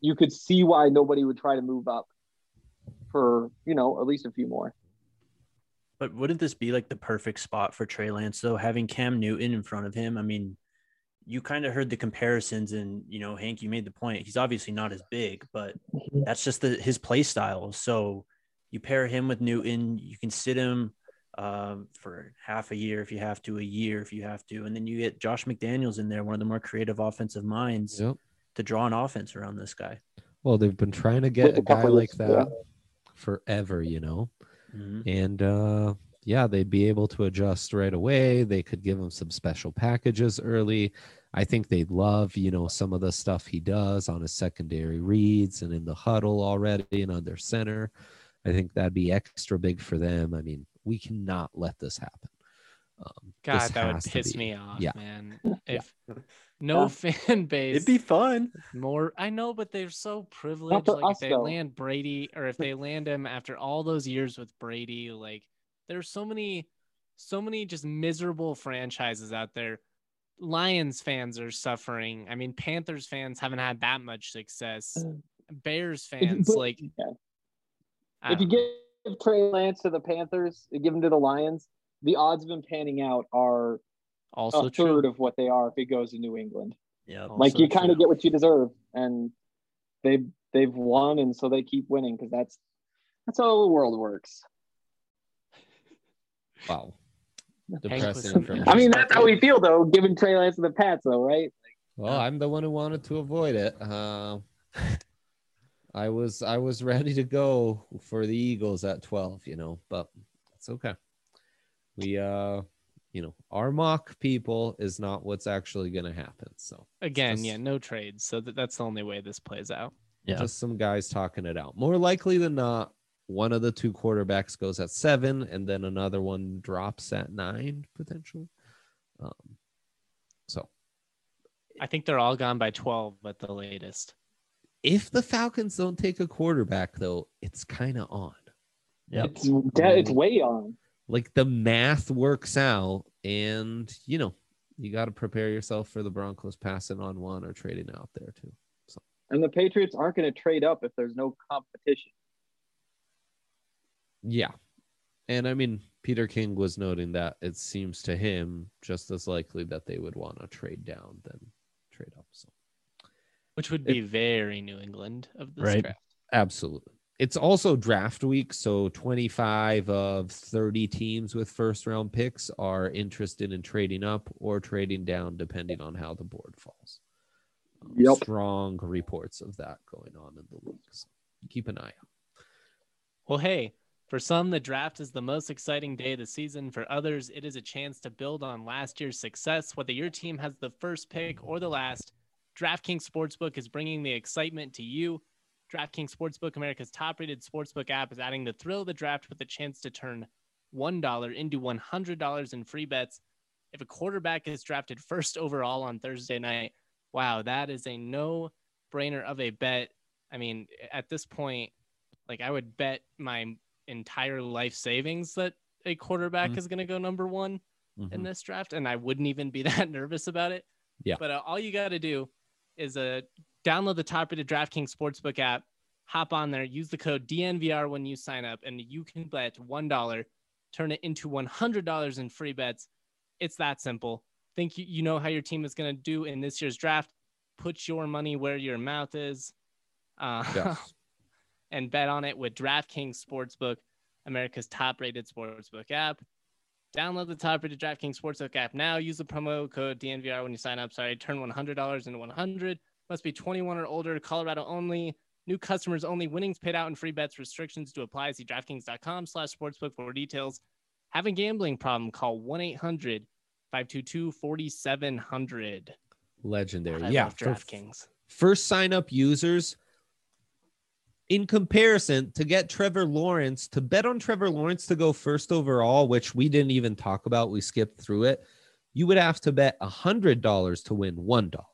you could see why nobody would try to move up for, you know, at least a few more. But wouldn't this be like the perfect spot for Trey Lance, though, having Cam Newton in front of him? I mean, you kind of heard the comparisons, and, you know, Hank, you made the point. He's obviously not as big, but that's just the, his play style. So you pair him with Newton, you can sit him um, for half a year if you have to, a year if you have to. And then you get Josh McDaniels in there, one of the more creative offensive minds, yep, to draw an offense around this guy. Well, they've been trying to get a guy like that forever, you know, mm-hmm. and uh, yeah, they'd be able to adjust right away. They could give him some special packages early. I think they'd love, you know, some of the stuff he does on his secondary reads and in the huddle already and under center. I think that'd be extra big for them. I mean, we cannot let this happen. Um, God, this that would piss me off, yeah. man. If no fan base, it'd be fun. More, I know, but they're so privileged. Like us, if they though. land Brady, or if they land him after all those years with Brady, like there's so many, so many just miserable franchises out there. Lions fans are suffering. I mean, Panthers fans haven't had that much success. Bears fans, but, like, yeah. if you know. give Trey Lance to the Panthers, give him to the Lions, the odds of him panning out are also a true. third of what they are if he goes to New England. Yeah, like you kind of get what you deserve, and they've they've won, and so they keep winning because that's that's how the world works. Wow, depressing. I mean, that's how we feel though, giving Trey Lance to the Pats, though, right? Like, well, I'm the one who wanted to avoid it. Uh, I was I was ready to go for the Eagles at twelve, you know, but it's okay. We uh. You know, our mock people is not what's actually going to happen. So again, just, yeah, no trades. So that, that's the only way this plays out. Yeah, just some guys talking it out. More likely than not, one of the two quarterbacks goes at seven, and then another one drops at nine potentially. Um, so I think they're all gone by twelve at the latest. If the Falcons don't take a quarterback, though, it's kind of on. Yeah, it's, it's way on. Like the math works out, and you know you got to prepare yourself for the Broncos passing on one or trading out there too. So, and the Patriots aren't going to trade up if there's no competition. Yeah, and I mean Peter King was noting that it seems to him just as likely that they would want to trade down than trade up. So, which would be it, very New England of this right? draft. Absolutely. It's also draft week, so twenty-five of thirty teams with first-round picks are interested in trading up or trading down, depending on how the board falls. Um, yep. Strong reports of that going on in the league. So keep an eye out. Well, hey, for some, the draft is the most exciting day of the season. For others, it is a chance to build on last year's success. Whether your team has the first pick or the last, DraftKings Sportsbook is bringing the excitement to you. DraftKings Sportsbook, America's top-rated sportsbook app, is adding the thrill of the draft with a chance to turn one dollar into one hundred dollars in free bets. If a quarterback is drafted first overall on Thursday night, wow, that is a no-brainer of a bet. I mean, at this point, like I would bet my entire life savings that a quarterback mm-hmm. is going to go number one mm-hmm. in this draft, and I wouldn't even be that nervous about it. Yeah. But uh, all you got to do is a uh, download the top-rated DraftKings Sportsbook app, hop on there, use the code D N V R when you sign up, and you can bet one dollar, turn it into one hundred dollars in free bets. It's that simple. Think you, you know how your team is going to do in this year's draft. Put your money where your mouth is uh, yes. and bet on it with DraftKings Sportsbook, America's top-rated sportsbook app. Download the top-rated DraftKings Sportsbook app now. Use the promo code D N V R when you sign up. Sorry, turn one hundred dollars into one hundred dollars. Must be twenty-one or older. Colorado only. New customers only. Winnings paid out in free bets. Restrictions to apply. See DraftKings.com slash sportsbook for details. Have a gambling problem? Call one eight hundred five two two four seven zero zero. Legendary. I yeah. love DraftKings. First sign-up users, in comparison, to get Trevor Lawrence, to bet on Trevor Lawrence to go first overall, which we didn't even talk about, we skipped through it, you would have to bet one hundred dollars to win one dollar.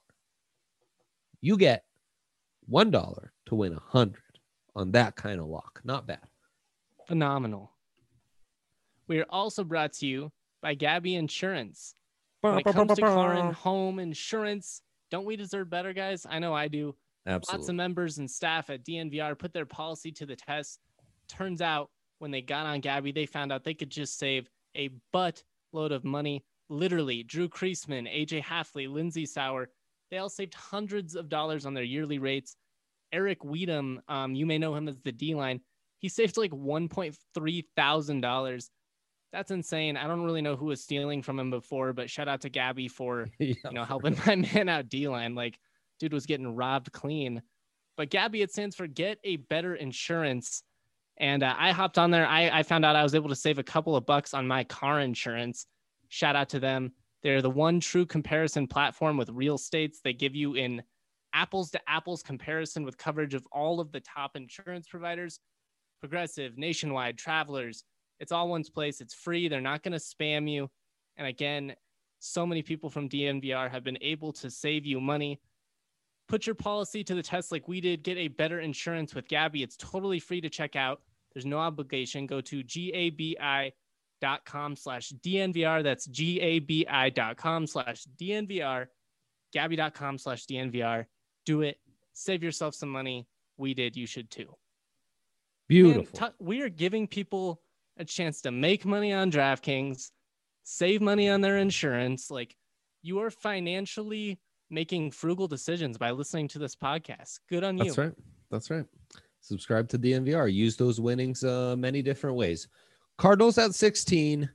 You get one dollar to win one hundred on that kind of lock. Not bad. Phenomenal. We are also brought to you by Gabby Insurance. When it comes to car and home insurance, don't we deserve better, guys? I know I do. Absolutely. Lots of members and staff at D N V R put their policy to the test. Turns out when they got on Gabby, they found out they could just save a butt load of money. Literally, Drew Kreisman, A J Halfley, Lindsey Sauer, they all saved hundreds of dollars on their yearly rates. Eric Weedham, um, you may know him as the D-line. He saved like one point three thousand dollars. That's insane. I don't really know who was stealing from him before, but shout out to Gabby for, yeah, you know, helping my man out D-line. Like, dude was getting robbed clean. But Gabby, it stands for Get a Better Insurance. And uh, I hopped on there. I, I found out I was able to save a couple of bucks on my car insurance. Shout out to them. They're the one true comparison platform with real states. They give you an apples to apples comparison with coverage of all of the top insurance providers, Progressive, Nationwide, Travelers. It's all one place. It's free. They're not going to spam you. And again, so many people from D N V R have been able to save you money. Put your policy to the test like we did. Get a better insurance with Gabby. It's totally free to check out. There's no obligation. Go to gabi dot com slash DNVR. That's gabi dot com slash DNVR. Gabby dot com slash DNVR. Do it. Save yourself some money. We did. You should too. Beautiful. Man, t- we are giving people a chance to make money on DraftKings, save money on their insurance. Like, you are financially making frugal decisions by listening to this podcast. Good on you. That's right. That's right. Subscribe to D N V R. Use those winnings uh, many different ways. Cardinals at sixteen.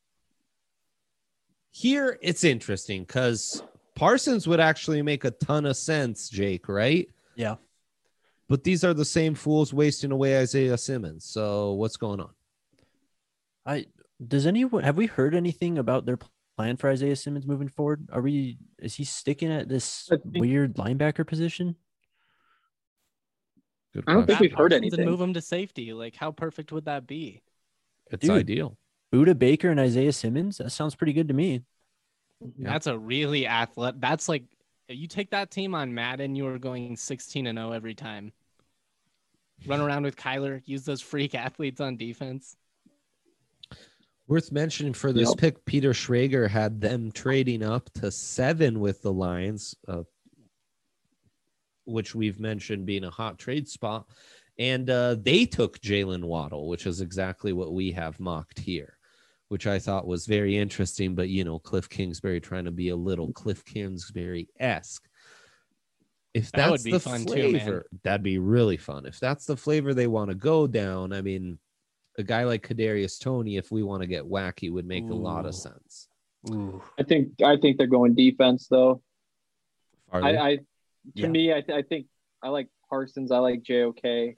Here, it's interesting because Parsons would actually make a ton of sense, Jake, right? Yeah. But these are the same fools wasting away Isaiah Simmons. So what's going on? I does anyone have we heard anything about their plan for Isaiah Simmons moving forward? Are we is he sticking at this weird linebacker position? Good I don't think we've heard anything. And move him to safety. Like, how perfect would that be? It's Dude, ideal. Buda Baker and Isaiah Simmons. That sounds pretty good to me. Yeah. That's a really athletic. That's like you take that team on Madden, you are going sixteen and oh every time. Run around with Kyler. Use those freak athletes on defense. Worth mentioning for this yep. pick, Peter Schrager had them trading up to seven with the Lions, uh, which we've mentioned being a hot trade spot. And uh, they took Jalen Waddle, which is exactly what we have mocked here, which I thought was very interesting. But, you know, Cliff Kingsbury trying to be a little Cliff Kingsbury-esque. If that's that would be the fun flavor, too, man. That'd be really fun. If that's the flavor they want to go down, I mean, a guy like Kadarius Toney, if we want to get wacky, would make Ooh. a lot of sense. Ooh. I think I think they're going defense, though. I, I to yeah. me, I, th- I think I like Parsons. I like J O K.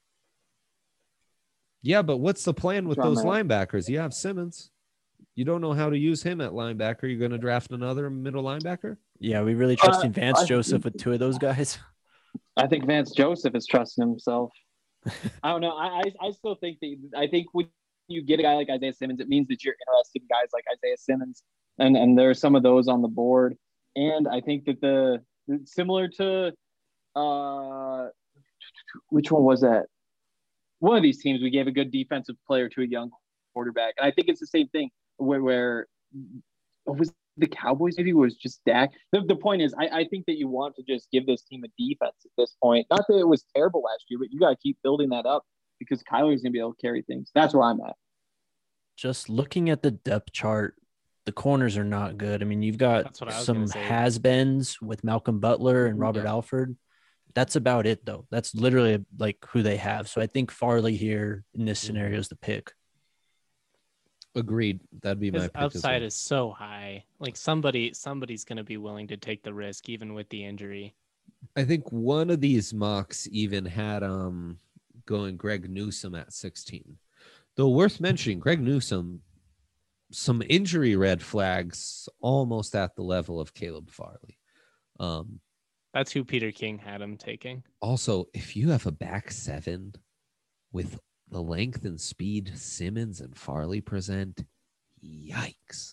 Yeah, but what's the plan with John those Matt. linebackers? You have Simmons. You don't know how to use him at linebacker. You're going to draft another middle linebacker? Yeah, we really trusting uh, Vance I, Joseph with two of those guys. I think Vance Joseph is trusting himself. I don't know. I, I I still think that I think when you get a guy like Isaiah Simmons, it means that you're interested in guys like Isaiah Simmons, and and there are some of those on the board. And I think that the similar to uh, which one was that? One of these teams, we gave a good defensive player to a young quarterback, and I think it's the same thing where where oh, was the Cowboys maybe was just Dak. The, the point is, I, I think that you want to just give this team a defense at this point. Not that it was terrible last year, but you got to keep building that up because Kyler's going to be able to carry things. That's where I'm at. Just looking at the depth chart, the corners are not good. I mean, you've got some has-beens with Malcolm Butler and Robert yeah. Alford. That's about it, though. That's literally like who they have. So I think Farley here in this scenario is the pick. Agreed. That'd be my His pick upside as well. is so high. Like somebody, somebody's going to be willing to take the risk, even with the injury. I think one of these mocks even had um going Greg Newsome at sixteen. Though worth mentioning, Greg Newsome, some injury red flags almost at the level of Caleb Farley. Um, That's who Peter King had him taking. Also, if you have a back seven with the length and speed Simmons and Farley present, yikes.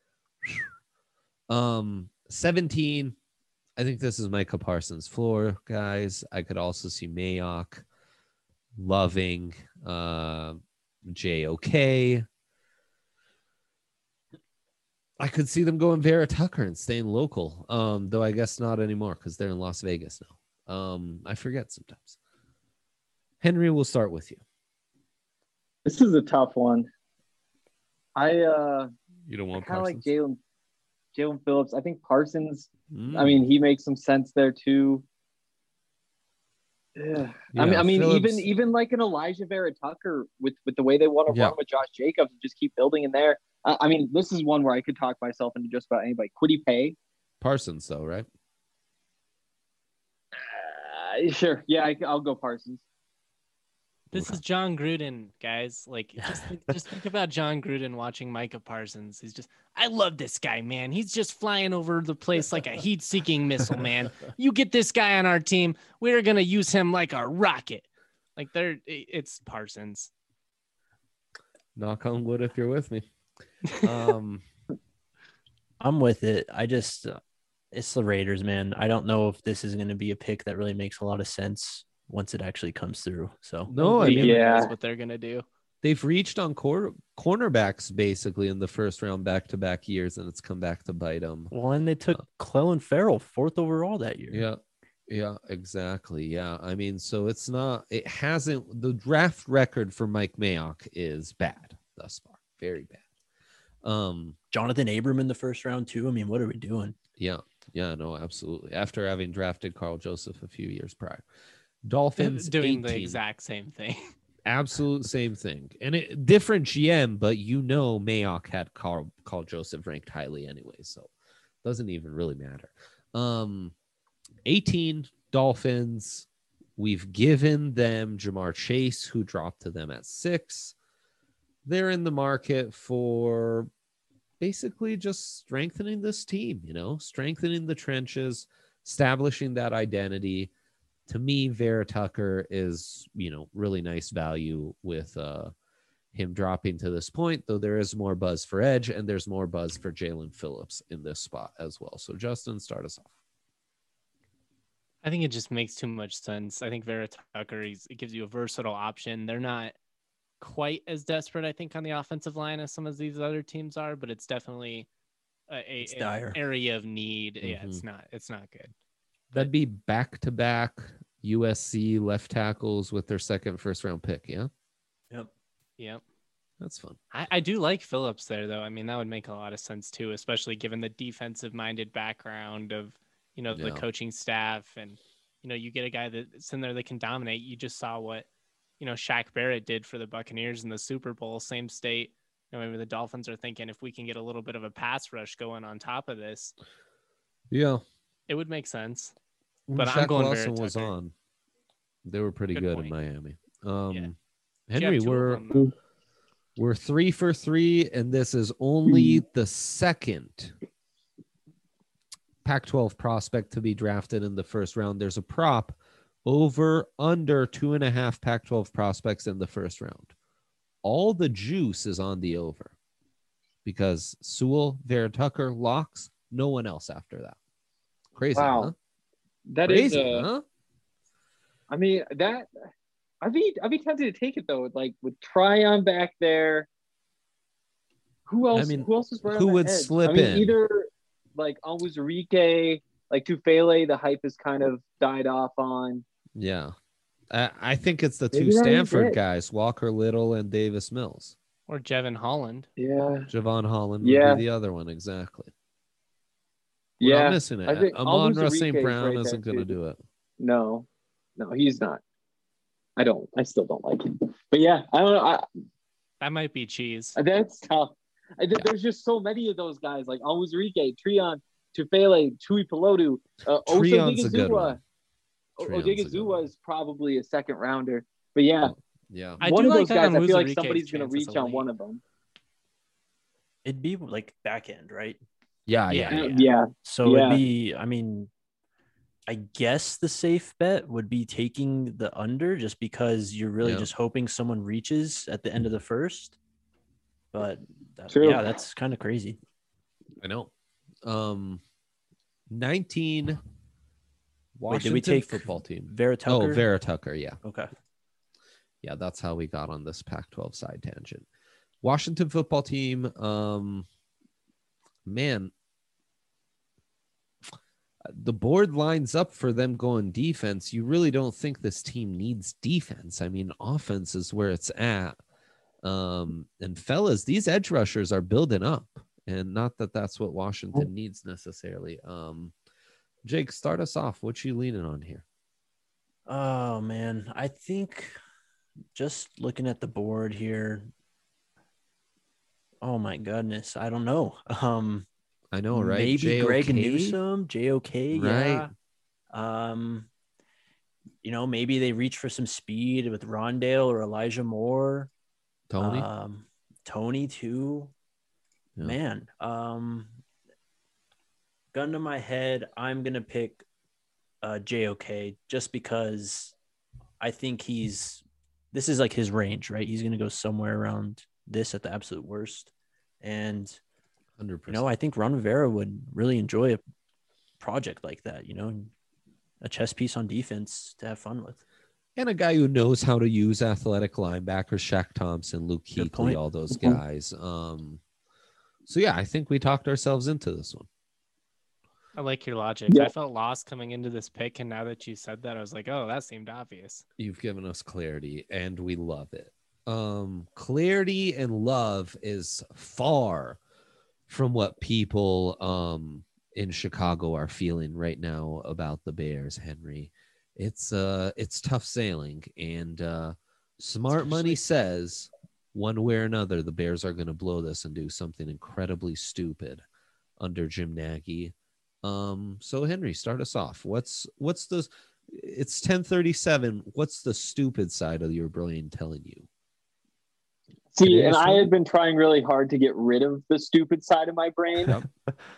Um, seventeen, I think this is Micah Parsons' floor, guys. I could also see Mayock, Loving, uh, J O K. I could see them going Vera Tucker and staying local, um, though I guess not anymore because they're in Las Vegas now. Um, I forget sometimes. Henry, we'll start with you. This is a tough one. I uh, You don't want kind of like Parsons? Jalen Jalen Phillips. I think Parsons. Mm. I mean, he makes some sense there too. Yeah. I mean, Yeah, I mean, Phillips- even even like an Elijah Vera Tucker with with the way they want to Yeah. run with Josh Jacobs and just keep building in there. Uh, I mean, this is one where I could talk myself into just about anybody. Quiddy Pay. Parsons, though, right? Uh, sure. Yeah, I, I'll go Parsons. This is John Gruden, guys. Like, just think, just think about John Gruden watching Micah Parsons. He's just, I love this guy, man. He's just flying over the place like a heat-seeking missile, man. You get this guy on our team, we're gonna use him like a rocket. Like, they're, it's Parsons. Knock on wood if you're with me. Um, I'm with it. I just, uh, it's the Raiders, man. I don't know if this is going to be a pick that really makes a lot of sense once it actually comes through. So no, I Nobody mean, ever Yeah. knows what they're gonna do. they've reached on cor- cornerbacks basically in the first round back-to-back years, and it's come back to bite them. well, and they took Clellan Farrell fourth overall that year. Yeah, yeah, exactly. Yeah, I mean, so it's not, it hasn't, the draft record for Mike Mayock is bad thus far, very bad. Um, Jonathan Abram in the first round too. I mean, what are we doing? yeah, yeah, no, absolutely. After having drafted Carl Joseph a few years prior, Dolphins Doing the eighteen. exact same thing. Absolute same thing, and it different G M, but you know Mayock had Carl Carl Joseph ranked highly anyway, so doesn't even really matter. Um, eighteen Dolphins. We've given them Jamar Chase, who dropped to them at six. They're in the market for basically just strengthening this team, you know, strengthening the trenches, establishing that identity. To me, Vera Tucker is, you know, really nice value with uh, him dropping to this point, though there is more buzz for Edge and there's more buzz for Jalen Phillips in this spot as well. So, Justin, start us off. I think it just makes too much sense. I think Vera Tucker, he's, it gives you a versatile option. They're not quite as desperate, I think, on the offensive line as some of these other teams are, but it's definitely a, a It's an dire. area of need. Mm-hmm. Yeah, it's not. It's not good. That'd be back-to-back U S C left tackles with their second first-round pick, yeah? Yep. Yep. That's fun. I, I do like Phillips there, though. I mean, that would make a lot of sense too, especially given the defensive-minded background of, you know, the Yeah. coaching staff, and you know, you get a guy that's in there that can dominate. You just saw what, you know, Shaq Barrett did for the Buccaneers in the Super Bowl, same state. You know, maybe the Dolphins are thinking if we can get a little bit of a pass rush going on top of this, Yeah. it would make sense. When But Shaq I'm going Lawson Vera was Tucker. on, they were pretty Good good point. in Miami. Um, Yeah. Henry, You have two of we're them, though. we're three for three, and this is only the second Pac twelve prospect to be drafted in the first round. There's a prop over under two and a half Pac twelve prospects in the first round. All the juice is on the over because Sewell, Vera Tucker, locks, no one else after that. Crazy, Wow. huh? That is, Crazy, uh, huh? I mean, that I'd be I'd be tempted to take it though. Like with Tryon back there, who else? I mean, who else is right who on the would edge? slip I mean, in? either like Onwuzurike, like Tufele. The hype has kind of died off on. Yeah. I, I think it's the two Maybe that is Stanford it. guys, Walker Little and Davis Mills. Or Jevon Holland. Yeah, Javon Holland would Yeah. be the other one, exactly. We're yeah. not missing it. I think Amon Ross Onwuzurike Saint is Brown right isn't there, going to too. do it. No, no, he's not. I don't. I still don't like him. But yeah, I don't know. I, That might be cheese. That's tough. I, th- There's just so many of those guys, like Onwuzurike, Trion, Tufele, Tui Pelotu, uh, Osa Trion's a good Odigizua. one. O- Trion's a good Odigizua one. is probably a second rounder. But yeah, Yeah. I one do of like those that guys, I feel like Onwuzurike's somebody's going to chances reach of on late. one of them. It'd be like back end, right? Yeah, Yeah. yeah. Uh, yeah. So Yeah. it'd be, I mean, I guess the safe bet would be taking the under just because you're really Yeah. just hoping someone reaches at the end of the first. But that, True. yeah, that's kind of crazy. I know. Um, nineteen Wait, Washington did we take football team. Vera Tucker? Oh, Vera Tucker. Yeah. Okay. Yeah, that's how we got on this Pac twelve side tangent. Washington football team. Um, man, the board lines up for them going defense. You really don't think this team needs defense. I mean, offense is where it's at. Um, and fellas, these edge rushers are building up, and not that that's what Washington needs necessarily. Um, Jake, start us off. What you leaning on here? Oh man, I think just looking at the board here. Oh my goodness, I don't know. Um, I know, right? Maybe J O K? Greg Newsome, J O K, right? Yeah. Um, you know, maybe they reach for some speed with Rondale or Elijah Moore. Tony, um, Tony too. Yeah. Man, um, gun to my head, I'm gonna pick uh, J O K just because I think he's. This is like his range, right? He's gonna go somewhere around this at the absolute worst, and one hundred percent. You know, I think Ron Rivera would really enjoy a project like that. You know, a chess piece on defense to have fun with. And a guy who knows how to use athletic linebackers, Shaq Thompson, Luke Kuechly, all those guys. Um, so, yeah, I think we talked ourselves into this one. I like your logic. Yeah. I felt lost coming into this pick, and now that you said that, I was like, oh, that seemed obvious. You've given us clarity, and we love it. Um, clarity and love is far from what people um, in Chicago are feeling right now about the Bears, Henry. It's uh, it's tough sailing, and uh, smart money says one way or another the Bears are going to blow this and do something incredibly stupid under Jim Nagy. Um, so Henry, start us off. What's what's the? It's ten thirty-seven. What's the stupid side of your brain telling you? See, and I had been trying really hard to get rid of the stupid side of my brain. Yep.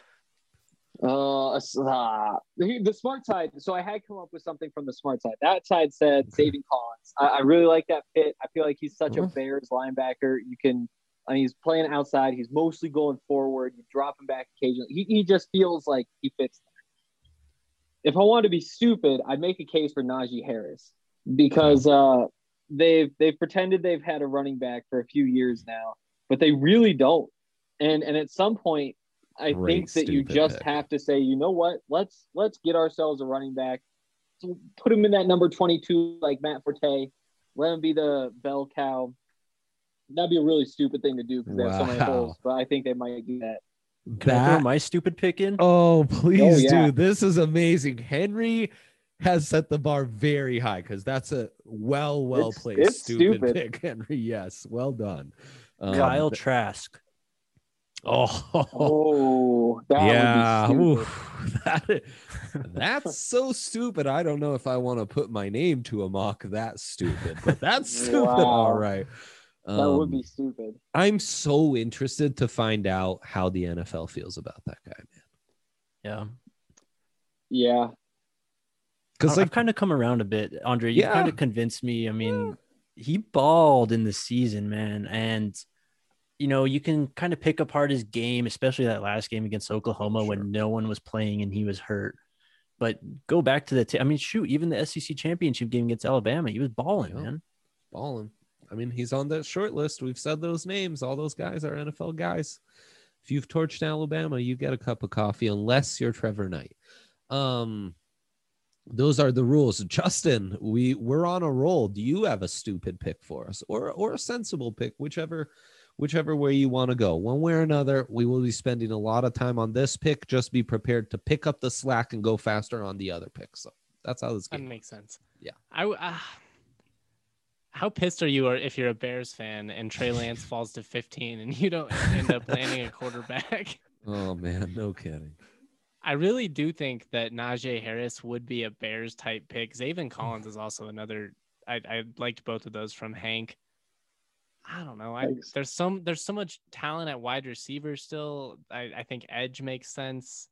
Uh, uh, the, the smart side. So I had come up with something from the smart side. That side said Zaven Collins. I, I really like that fit. I feel like he's such a Bears linebacker. You can, I mean, he's playing outside. He's mostly going forward. You drop him back occasionally. He, he just feels like he fits there. If I wanted to be stupid, I'd make a case for Najee Harris because uh, they've they've pretended they've had a running back for a few years now, but they really don't. And and at some point, I Great think that you just pick. have to say, you know what? Let's let's get ourselves a running back. So put him in that number twenty-two, like Matt Forte. Let him be the bell cow. That'd be a really stupid thing to do because wow. they have so many holes. But I think they might do that. Can that, I throw my stupid pick in? Oh, please oh, yeah. do. This is amazing. Henry has set the bar very high because that's a well, well it's, placed it's stupid, stupid pick, Henry. Yes, well done. Um, Kyle Trask. Oh, oh that yeah. Would be stupid. that, that's so stupid. I don't know if I want to put my name to a mock that stupid, but that's stupid. Wow. All right. Um, that would be stupid. I'm so interested to find out how the N F L feels about that guy, man. Yeah. Yeah. Because like, I've kind of come around a bit, Andre. You yeah. kind of convinced me. I mean, yeah. he balled in the season, man. And, you know, you can kind of pick apart his game, especially that last game against Oklahoma sure. when no one was playing and he was hurt. But go back to the t- – I mean, shoot, even the S E C championship game against Alabama, he was balling, yeah. man. Balling. I mean, he's on that short list. We've said those names. All those guys are N F L guys. If you've torched Alabama, you get a cup of coffee unless you're Trevor Knight. Um, those are the rules. Justin, we, we're on a roll. Do you have a stupid pick for us or or a sensible pick, whichever whichever way you want to go? One way or another, we will be spending a lot of time on this pick. Just be prepared to pick up the slack and go faster on the other pick. So that's how this game That makes sense. Yeah. I uh... How pissed are you if you're a Bears fan and Trey Lance falls to fifteen and you don't end up landing a quarterback? Oh, man, no kidding. I really do think that Najee Harris would be a Bears type pick. Zaven Collins is also another. I, I liked both of those from Hank. I don't know. I, there's some there's so much talent at wide receiver still. I, I think edge makes sense.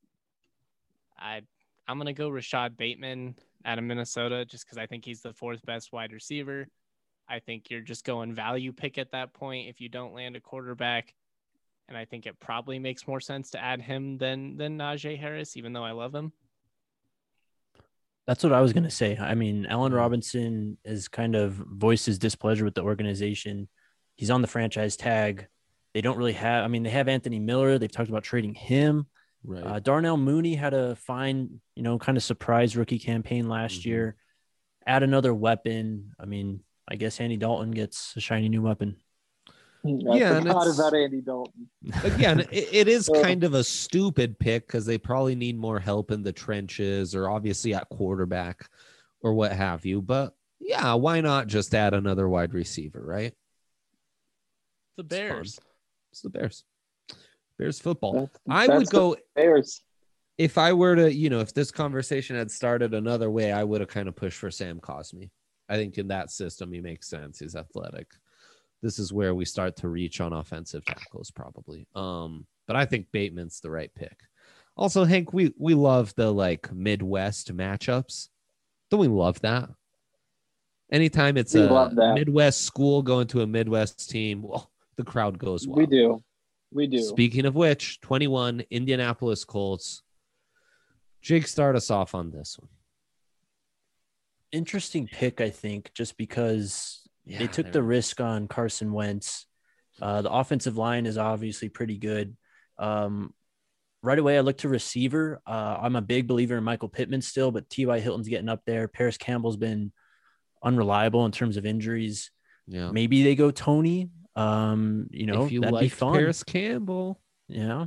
I I'm gonna go Rashad Bateman out of Minnesota just because I think he's the fourth best wide receiver. I think you're just going value pick at that point if you don't land a quarterback. And I think it probably makes more sense to add him than than Najee Harris, even though I love him. That's what I was going to say. I mean, Allen Robinson has kind of voiced his displeasure with the organization. He's on the franchise tag. They don't really have – I mean, they have Anthony Miller. They've talked about trading him. Right. Uh, Darnell Mooney had a fine, you know, kind of surprise rookie campaign last Mhm. year. Add another weapon. I mean, I guess Andy Dalton gets a shiny new weapon. I Yeah, and forgot it's- about Andy Dalton. Again, it, it is Uh. kind of a stupid pick because they probably need more help in the trenches or obviously at quarterback or what have you. But yeah, why not just add another wide receiver, right? The It's fun. Bears. It's the Bears. Bears football. That's- I that's would the go Bears. if I were to, you know, if this conversation had started another way, I would have kind of pushed for Sam Cosmi. I think in that system, he makes sense. He's athletic. This is where we start to reach on offensive tackles, probably. Um, but I think Bateman's the right pick. Also, Hank, we we love the like Midwest matchups. Don't we love that? Anytime it's We a love that. Midwest school going to a Midwest team, well, the crowd goes wild. We do. We do. Speaking of which, twenty-one Indianapolis Colts. Jake, start us off on this one. Interesting pick, I think, just because Yeah, they took there the it is. risk on Carson Wentz. Uh, the offensive line is obviously pretty good. Um, right away, I look to receiver. Uh, I'm a big believer in Michael Pittman still, but T Y. Hilton's getting up there. Paris Campbell's been unreliable in terms of injuries. Yeah. Maybe they go Tony. Um, you know, if you that'd be like fun. Paris Campbell, Yeah.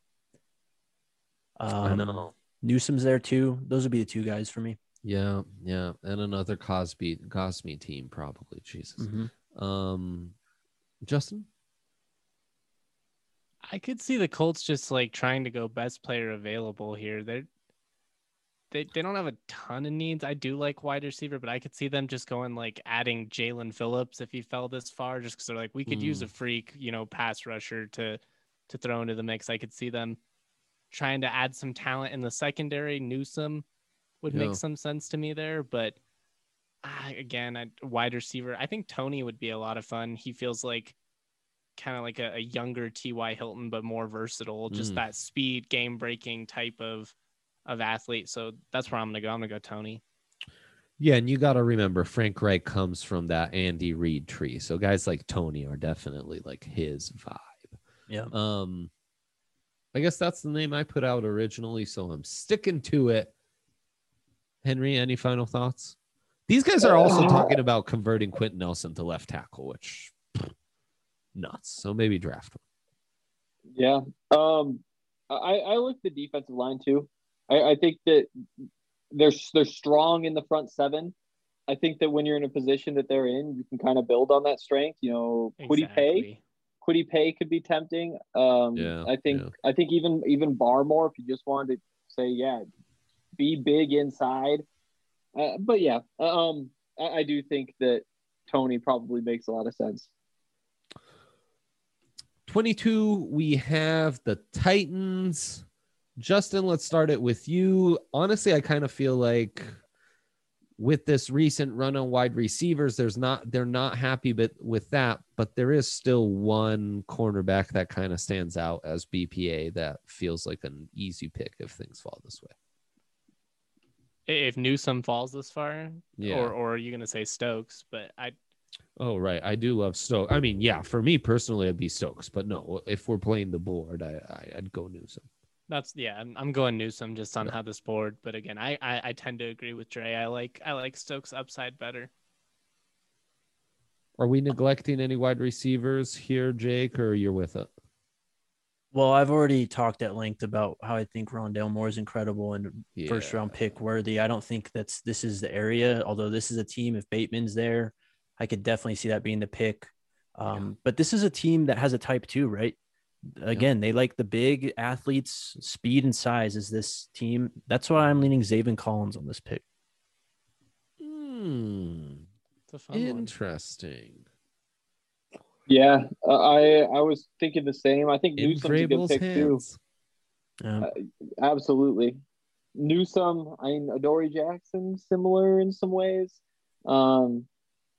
Um, I know. Newsom's there too. Those would be the two guys for me. Yeah, yeah, and another Cosby Cosme team probably. Jesus. Mhm. Um, Justin. I could see the Colts just like trying to go best player available here. They're they they don't have a ton of needs. I do like wide receiver, but I could see them just going like adding Jalen Phillips if he fell this far, just because they're like we could use a freak, you know, pass rusher to to throw into the mix. I could see them trying to add some talent in the secondary. Newsome would Yeah. make some sense to me there, but ah, again, a wide receiver. I think Tony would be a lot of fun. He feels like kind of like a, a younger T Y. Hilton, but more versatile. Just Mm. that speed, game breaking type of of athlete. So that's where I'm gonna go. I'm gonna go Tony. Yeah, and you got to remember Frank Reich comes from that Andy Reid tree, so guys like Tony are definitely like his vibe. Yeah. Um, I guess that's the name I put out originally, so I'm sticking to it. Henry, any final thoughts? These guys are also Uh, talking about converting Quentin Nelson to left tackle, which pff, nuts. So maybe draft him. Yeah. Um, I, I like the defensive line too. I, I think that they're they're strong in the front seven. I think that when you're in a position that they're in, you can kind of build on that strength. You know, Quiddy Pay, Exactly. Quiddy Pay could be tempting. Um, Yeah, I think yeah. I think even even Barmore, if you just wanted to say, yeah, be big inside. Uh, but yeah, um, I, I do think that Tony probably makes a lot of sense. twenty-two, we have the Titans. Justin, let's start it with you. Honestly, I kind of feel like with this recent run on wide receivers, there's not they're not happy but with that, but there is still one cornerback that kind of stands out as B P A that feels like an easy pick if things fall this way. If Newsome falls this far, Yeah. or or are you gonna say Stokes? But I Oh, right. I do love Stokes. I mean, yeah, for me personally, it'd be Stokes, but no, if we're playing the board, I, I I'd go Newsome. that's yeah, I'm, I'm going Newsome just on Yeah. how this board. But again, I, I I tend to agree with Dre. I like I like Stokes upside better. Are we neglecting any wide receivers here, Jake, or you're with it? Well, I've already talked at length about how I think Rondale Moore is incredible and Yeah. first round pick worthy. I don't think that's this is the area, although this is a team. If Bateman's there, I could definitely see that being the pick. Um, But this is a team that has a type two, right? Again, they like the big athletes, speed and size is this team. That's why I'm leaning Zaven Collins on this pick. Hmm. It's a fun one. Interesting. Yeah, uh, I I was thinking the same. I think In Newsome's a good Vrabel's pick hands. Um, too. Absolutely, Newsome. I mean, Adoree Jackson, similar in some ways. Um,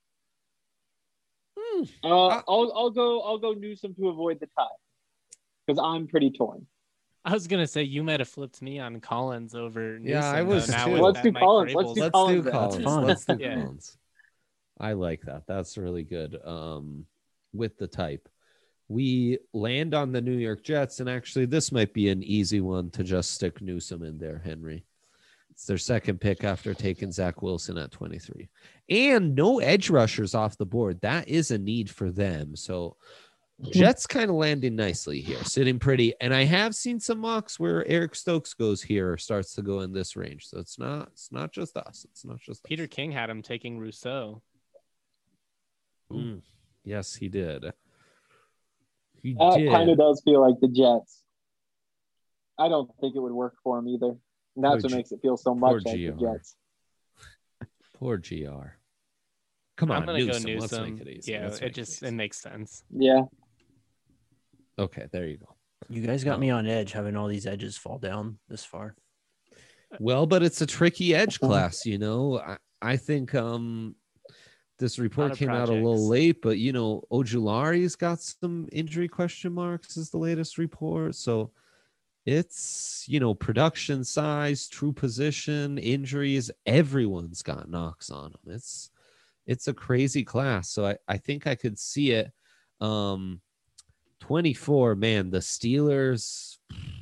Hmm. uh, Uh, I'll I'll go I'll go Newsome to avoid the tie because I'm pretty torn. I was gonna say you might have flipped me on Collins over. Yeah, I Newsome, was though, now too. with Let's that do Mike Collins. Let's Vrabel's- do Let's Collins do then. Collins. That's fun. Let's do Yeah. Collins. I like that. That's really good. Um, with the type. we land on the New York Jets, and actually this might be an easy one to just stick Newsome in there, Henry. It's their second pick after taking Zach Wilson at twenty-three. And no edge rushers off the board. That is a need for them. So Jets kind of landing nicely here, sitting pretty. And I have seen some mocks where Eric Stokes goes here or starts to go in this range. So it's not it's not just us. It's not just Peter us. King had him taking Rousseau. Mm, yes, he did. He That did. kind of does feel like the Jets. I don't think it would work for him either. And that's Poor what G- makes it feel so much like G the R. Jets. Poor G R. Come on, I'm gonna Newsome. go Let's Newsome. make it easy. Yeah, Let's it make just it, it easy. makes sense. Yeah. Okay, there you go. You guys got Oh. me on edge having all these edges fall down this far. Well, but it's a tricky edge class, you know. I, I think um this report of came out a little projects. late, but you know, Ojulari's got some injury question marks is the latest report. So it's, you know, production size, true position, injuries, everyone's got knocks on them. It's it's a crazy class. So I, I think I could see it. Um twenty-four, man, the Steelers.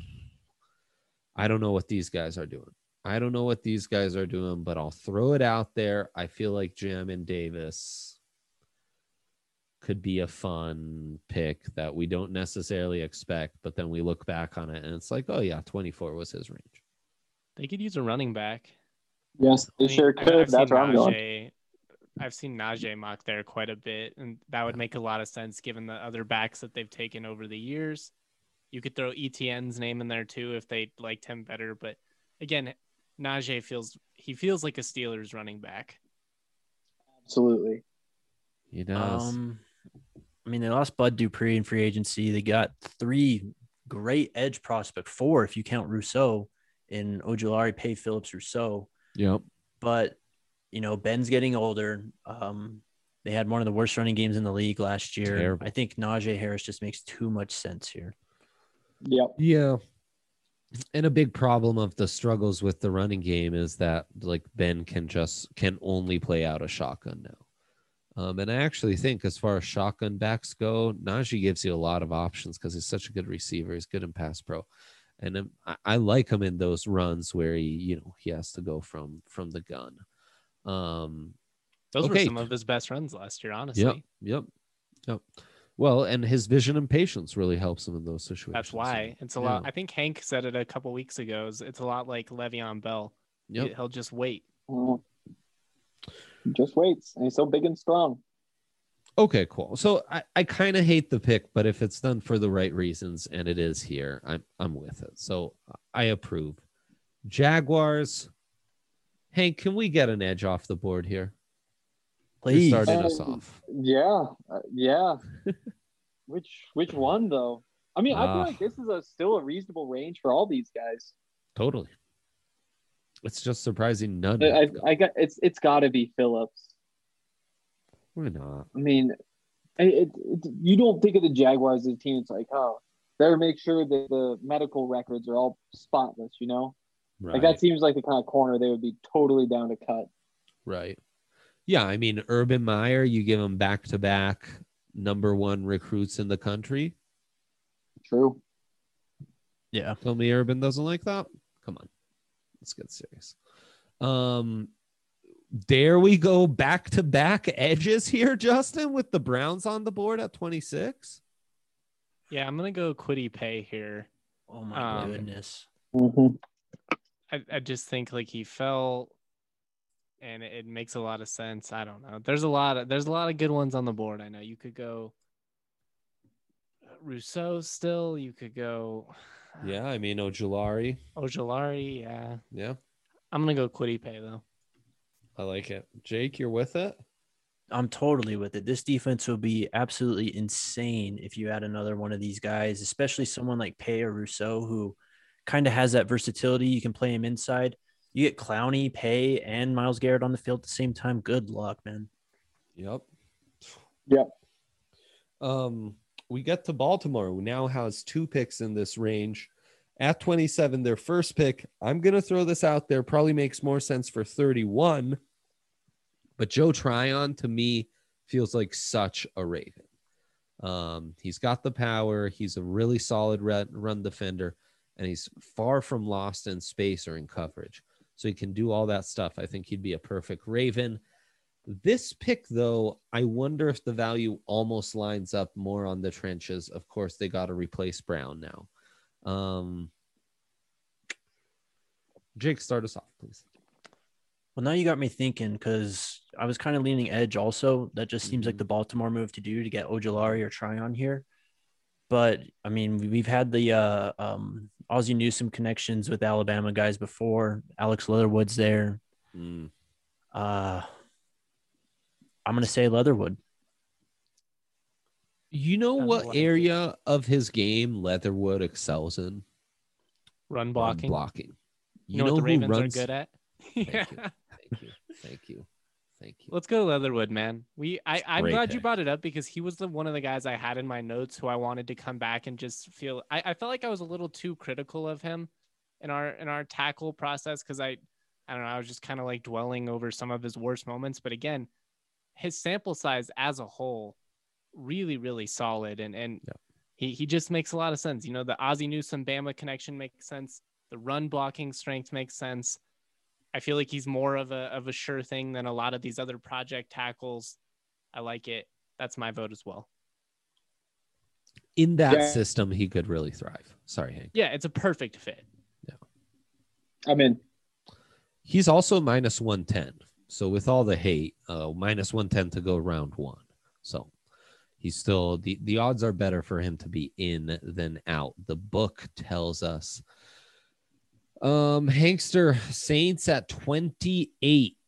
I don't know what these guys are doing. I don't know what these guys are doing, but I'll throw it out there. I feel like Jamin Davis could be a fun pick that we don't necessarily expect, but then we look back on it and it's like, oh yeah, twenty-four was his range. They could use a running back. Yes, they I mean, sure I- could. I've That's seen where I'm going. Najee- I've seen Najee mock there quite a bit, and that would make a lot of sense given the other backs that they've taken over the years. You could throw E T N's name in there too if they liked him better, but again, Najee feels he feels like a Steelers running back. Absolutely. He does. Um, I mean, they lost Bud Dupree in free agency. They got three great edge prospect, four if you count Rousseau in Ojulari, Pay, Phillips, Rousseau. Yep. But you know, Ben's getting older. Um, they had one of the worst running games in the league last year. Terrible. I think Najee Harris just makes too much sense here. Yep. Yeah. And a big problem of the struggles with the running game is that like Ben can just can only play out a shotgun now. Um, and I actually think as far as shotgun backs go, Najee gives you a lot of options because he's such a good receiver. He's good in pass pro. And um, I, I like him in those runs where he, you know, he has to go from from the gun. Um, Those were Okay. some of his best runs last year, honestly. Yep. Yep. Yep. Well, and his vision and patience really helps him in those situations. That's why So, it's a yeah. lot. I think Hank said it a couple weeks ago. is It's a lot like Le'Veon Bell. Yep. He- He'll just wait. Well, just waits. And he's so big and strong. Okay, cool. So I, I kind of hate the pick, but if it's done for the right reasons and it is here, I'm I'm with it. So I approve. Jaguars. Hank, can we get an edge off the board here? You're Please. starting us Um, off. Yeah. Uh, yeah. which which one though? I mean, I feel Ah. like this is a still a reasonable range for all these guys. Totally. It's just surprising none. I, have gone. I got it's it's got to be Phillips. Why not? I mean, it, it, you don't think of the Jaguars as a team. It's like, oh, better make sure that the medical records are all spotless. You know, Right. like that seems like the kind of corner they would be totally down to cut. Right. Yeah, I mean, Urban Meyer, you give him back-to-back number one recruits in the country. True. Yeah. Tell me Urban doesn't like that? Come on. Let's get serious. Um, there we go. Back-to-back edges here, Justin, with the Browns on the board at twenty-six. Yeah, I'm gonna go Quiddy Pay here. Oh my Um, goodness. Mm-hmm. I, I just think like he fell, and it, it makes a lot of sense. I don't know. There's a lot of there's a lot of good ones on the board. I know you could go Rousseau still. You could go Yeah, I mean, Ojulari. Ojulari. Yeah, Yeah, I'm gonna go Quiddy Pay though. I like it. Jake, you're with it? I'm totally with it. This defense will be absolutely insane if you add another one of these guys, especially someone like Pay or Rousseau, who kind of has that versatility. You can play him inside. You get Clowney, Pay, and Myles Garrett on the field at the same time. Good luck, man. Yep. Yep. Um, we get to Baltimore, who now has two picks in this range. At twenty-seven, their first pick. I'm going to throw this out there. Probably makes more sense for thirty-one. But Joe Tryon, to me, feels like such a Raven. Um, he's got the power. He's a really solid run, run defender, and he's far from lost in space or in coverage. So he can do all that stuff. I think he'd be a perfect Raven. This pick, though, I wonder if the value almost lines up more on the trenches. Of course, they got to replace Brown now. Um, Jake, start us off, please. Well, now you got me thinking, because I was kind of leaning edge also. That just seems mm-hmm. like the Baltimore move to do to get Ojulari or Tryon here. But, I mean, we've had the uh, um, Ozzie Newsome connections with Alabama guys before. Alex Leatherwood's there. Mm. Uh, I'm going to say Leatherwood. You know what area of his game Leatherwood excels in? Run blocking. Run blocking. You, you know, know what the Ravens runs... are good at? Yeah. Thank you. Thank you. Thank you. Let's go to Leatherwood, man. We I, I'm glad pick. you brought it up because he was the one of the guys I had in my notes who I wanted to come back and just feel I, I felt like I was a little too critical of him in our in our tackle process because I I don't know, I was just kind of like dwelling over some of his worst moments. But again, his sample size as a whole, really, really solid. And and yeah. he he just makes a lot of sense. You know, the Ozzie Newsome Bama connection makes sense. The run blocking strength makes sense. I feel like he's more of a of a sure thing than a lot of these other project tackles. I like it. That's my vote as well. In that yeah. system, he could really thrive. Sorry, Hank. Yeah, it's a perfect fit. Yeah. I'm in. He's also minus one ten. So with all the hate, uh, minus one ten to go round one. So he's still, the, the odds are better for him to be in than out. The book tells us. Um, Hankster, Saints at twenty-eight.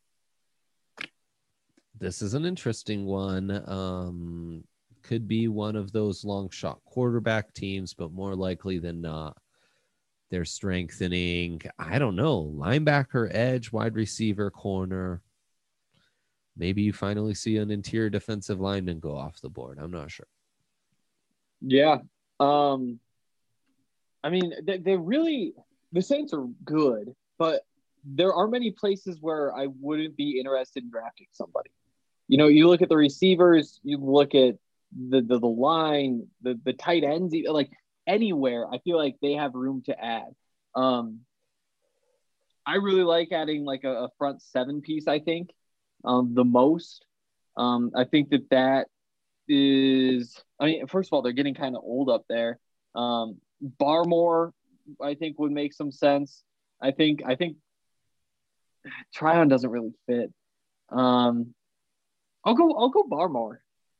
This is an interesting one. Um, could be one of those long shot quarterback teams, but more likely than not, they're strengthening. I don't know, linebacker, edge, wide receiver, corner. Maybe you finally see an interior defensive lineman go off the board. I'm not sure. Yeah. Um, I mean, they, they really. The Saints are good, but there are many places where I wouldn't be interested in drafting somebody. You know, you look at the receivers, you look at the the, the line, the, the tight ends, like anywhere, I feel like they have room to add. Um, I really like adding like a, a front seven piece, I think, um, the most. Um, I think that that is, I mean, first of all, they're getting kind of old up there. Um, Barmore, I think would make some sense. I think I think Tryon doesn't really fit. Um, I'll go I'll go Barmore.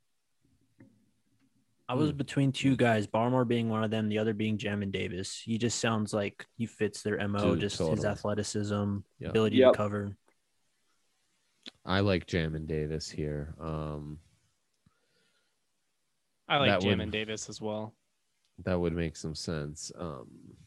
I was between two guys, Barmore being one of them, the other being Jamin Davis. He just sounds like he fits their M O, Dude, just totally. His athleticism, yep. ability yep. to cover. I like Jamin Davis here. Um, I like Jamin would, Davis as well. That would make some sense. Um,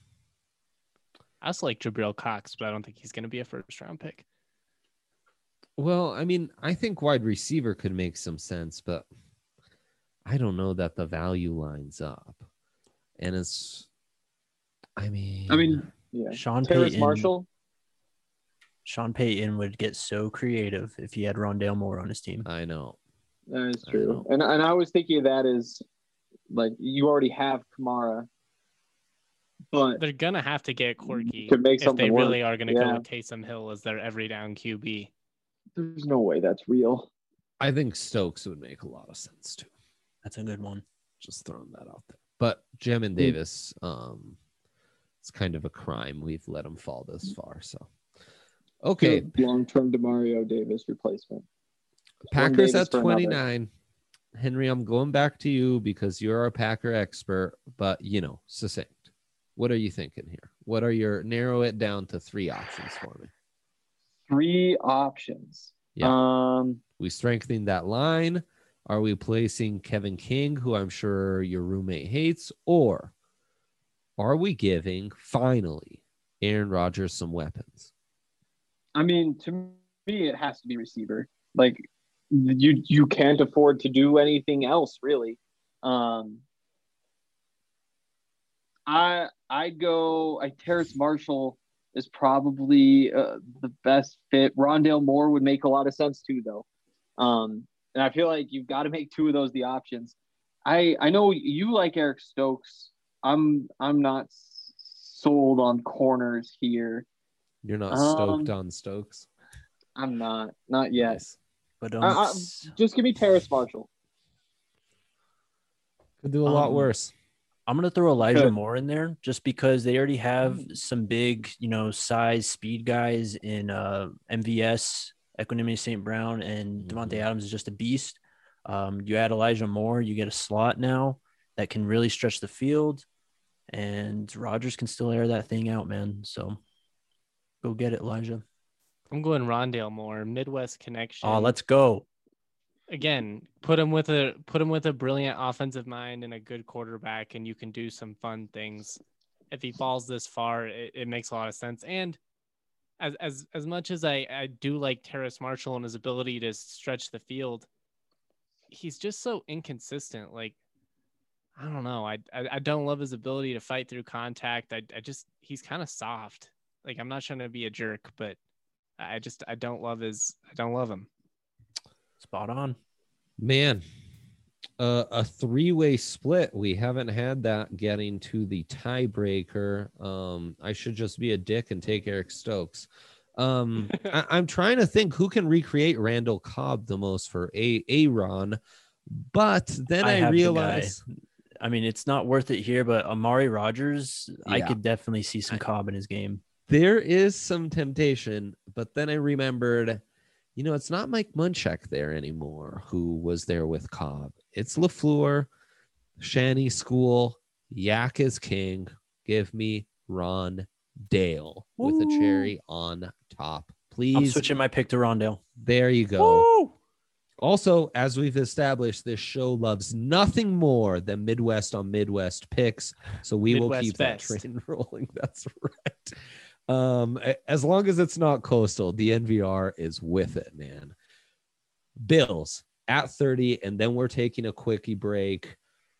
I also like Jabril Cox, but I don't think he's going to be a first round pick. Well, I mean, I think wide receiver could make some sense, but I don't know that the value lines up. And it's, I mean, I mean, yeah. Sean Terrace Payton, Marshall. Sean Payton would get so creative if he had Rondale Moore on his team. I know. That is true. And and I was thinking of that as like you already have Kamara. But they're gonna have to get Corky to make if they work. really are gonna yeah. go with Taysom Hill as their every down Q B. There's no way that's real. I think Stokes would make a lot of sense too. That's a good one. Just throwing that out there. But Jamin Davis, um, it's kind of a crime we've let him fall this far. So okay, long-term Demario Davis replacement. Packers at twenty-nine. Henry, I'm going back to you because you're a Packer expert, but you know, succinct. What are you thinking here? What are your narrow it down to three options for me? Three options. Yeah. Um, we strengthening that line. Are we placing Kevin King, who I'm sure your roommate hates, or are we giving finally Aaron Rodgers some weapons? I mean, to me, it has to be receiver. Like you, you can't afford to do anything else, really. Um, I I go. I Terrace Marshall is probably uh, the best fit. Rondale Moore would make a lot of sense too, though. Um, and I feel like you've got to make two of those the options. I I know you like Eric Stokes. I'm I'm not sold on corners here. You're not Um, stoked on Stokes? I'm not. Not yet. Nice. But um, I, I, just give me Terrace Marshall. Could do a lot um, worse. I'm gonna throw Elijah Good. Moore in there just because they already have Mm. some big, you know, size speed guys in uh, M V S, Equanimity Saint Brown, and Mhm. Devontae Adams is just a beast. Um, you add Elijah Moore, you get a slot now that can really stretch the field, and Rodgers can still air that thing out, man. So go get it, Elijah. I'm going Rondale Moore, Midwest connection. Oh, let's go. Again, put him with a put him with a brilliant offensive mind and a good quarterback, and you can do some fun things. If he falls this far, it, it makes a lot of sense. And as as as much as I, I do like Terrace Marshall and his ability to stretch the field, he's just so inconsistent. Like, I don't know. I I, I don't love his ability to fight through contact. I I just he's kind of soft. Like, I'm not trying to be a jerk, but I just I don't love his I don't love him. Spot on. Man, uh, a three-way split. We haven't had that getting to the tiebreaker. Um, I should just be a dick and take Eric Stokes. Um, I, I'm trying to think who can recreate Randall Cobb the most for a Aaron, but then I, I have the realize, I mean, it's not worth it here, but Amari Rogers, I Yeah. could definitely see some I- Cobb in his game. there is some temptation, but then I remembered, you know, it's not Mike Munchak there anymore, who was there with Cobb. It's LaFleur, Shanny School, Yak is king. Give me Ron Dale with a cherry on top. Please. I'm switching my pick to Rondale. There you go. Woo! Also, as we've established, this show loves nothing more than Midwest on Midwest picks. So we will Midwest keep best. that train rolling. That's right. Um, a- as long as it's not coastal, the N V R is with it, man. Bills at thirty, and then we're taking a quickie break.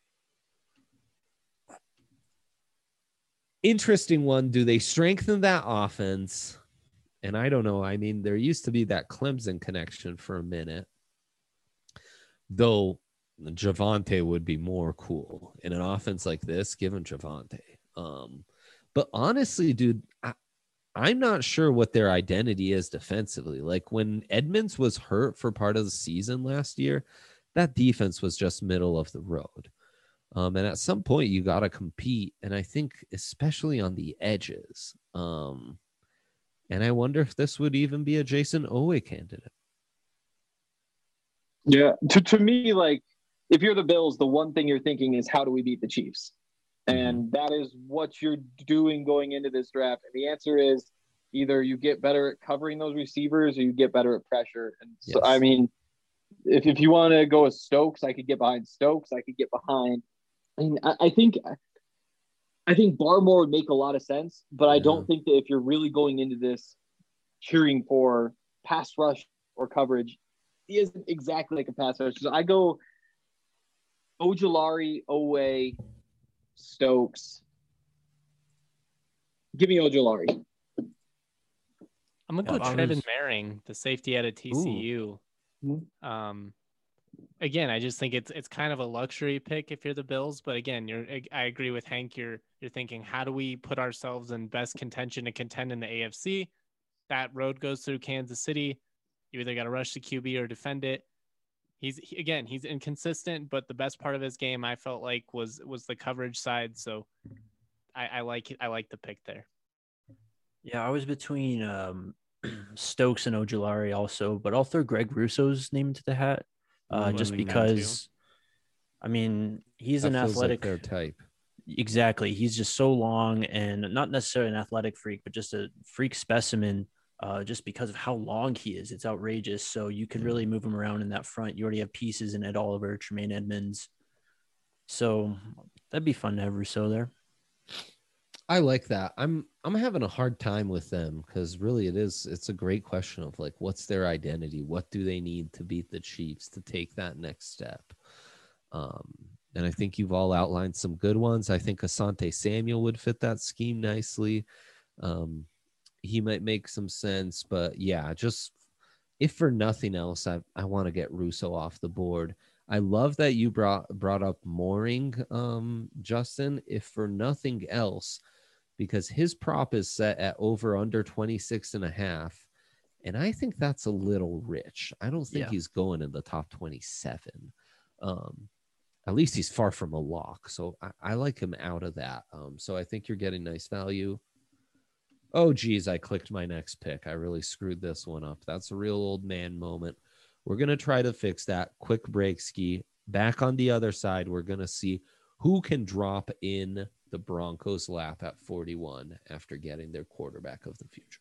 Interesting one. Do they strengthen that offense? And I don't know. I mean, there used to be that Clemson connection for a minute, though Javonte would be more cool in an offense like this, given Javonte. Um, but honestly, dude, I, I'm not sure what their identity is defensively. Like when Edmonds was hurt for part of the season last year, that defense was just middle of the road. Um, and at some point, you got to compete. And I think especially on the edges. Um, and I wonder if this would even be a Jason Owe candidate. Yeah. To, to me, like, if you're the Bills, the one thing you're thinking is, how do we beat the Chiefs? And that is what you're doing going into this draft. And the answer is either you get better at covering those receivers or you get better at pressure. And so, Yes. I mean, if, if you want to go with Stokes, I could get behind Stokes. I could get behind. I mean, I, I think I think Barmore would make a lot of sense, but I Yeah. don't think that if you're really going into this cheering for pass rush or coverage, he isn't exactly like a pass rush. So I go Ojulari, Owe, Stokes. Give me Ojulari. I'm gonna go Yeah, Trevin Barnes. Maring, the safety out of T C U. Ooh. Um, again, I just think it's it's kind of a luxury pick if you're the Bills. But again, you're I agree with Hank. You're you're thinking, how do we put ourselves in best contention to contend in the A F C? That road goes through Kansas City. You either got to rush the Q B or defend it. He's he, again, he's inconsistent, but the best part of his game, I felt like, was was the coverage side. So I, I like it. I like the pick there. Yeah, I was between um, Stokes and Ojulari also, but I'll throw Greg Russo's name into the hat uh, Ooh, I just like that because, I mean, he's That an feels like athletic. their type. Exactly. He's just so long and not necessarily an athletic freak, but just a freak specimen uh, just because of how long he is. It's outrageous. So you could really move him around in that front. You already have pieces in Ed Oliver, Tremaine Edmonds. So that'd be fun to have Russo there. I like that. I'm I'm having a hard time with them because really it is it's a great question of like, what's their identity? What do they need to beat the Chiefs to take that next step? Um, and I think you've all outlined some good ones. I think Asante Samuel would fit that scheme nicely. Um, he might make some sense, but yeah, just if for nothing else, I I want to get Russo off the board. I love that you brought brought up Mooring, um, Justin, if for nothing else, because his prop is set at over under twenty-six and a half. And I think that's a little rich. I don't think Yeah. he's going in the top twenty-seven. Um, at least he's far from a lock. So I, I like him out of that. Um, so I think you're getting nice value. Oh, geez, I clicked my next pick. I really screwed this one up. That's a real old man moment. We're going to try to fix that. Quick break, Ski. Back on the other side, we're going to see who can drop in the Broncos' lap at forty-one after getting their quarterback of the future.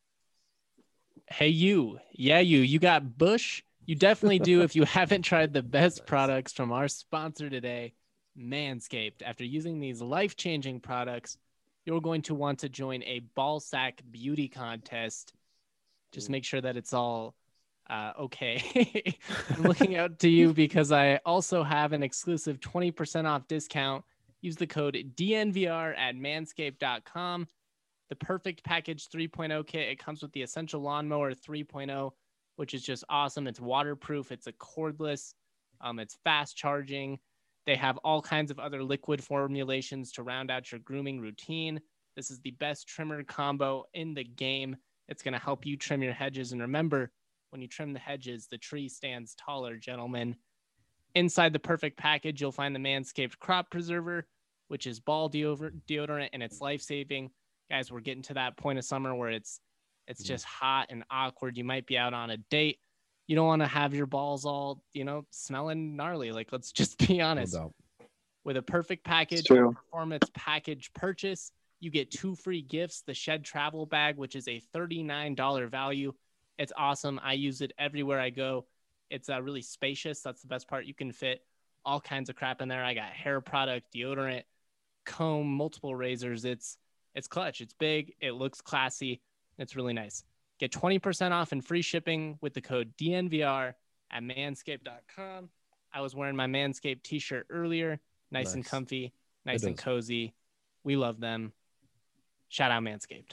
Hey, you. Yeah, you. You got Bush. You definitely do if you haven't tried the best products from our sponsor today, Manscaped. After using these life-changing products, you're going to want to join a ball sack beauty contest. Just make sure that it's all uh, okay. I'm looking out to you because I also have an exclusive twenty percent off discount. Use the code D N V R at manscaped dot com. The Perfect Package three point oh kit. It comes with the Essential Lawnmower three point oh, which is just awesome. It's waterproof. It's a cordless. Um, it's fast charging. They have all kinds of other liquid formulations to round out your grooming routine. This is the best trimmer combo in the game. It's going to help you trim your hedges. And remember, when you trim the hedges, the tree stands taller, gentlemen. Inside the Perfect Package, you'll find the Manscaped Crop Preserver, which is ball deodorant, and it's life-saving. Guys, we're getting to that point of summer where it's it's just hot and awkward. You might be out on a date. You don't want to have your balls all, you know, smelling gnarly. Like, let's just be honest. No doubt. With a Perfect Package True. Performance Package purchase, you get two free gifts, the Shed Travel Bag, which is a thirty-nine dollars value. It's awesome. I use it everywhere I go. It's uh, really spacious. That's the best part. You can fit all kinds of crap in there. I got hair product, deodorant, comb, multiple razors. It's It's clutch. It's big. It looks classy. It's really nice. Get twenty percent off and free shipping with the code D N V R at manscaped dot com. I was wearing my Manscaped t-shirt earlier. Nice, nice. and comfy. Nice it and is. cozy. We love them. Shout out Manscaped.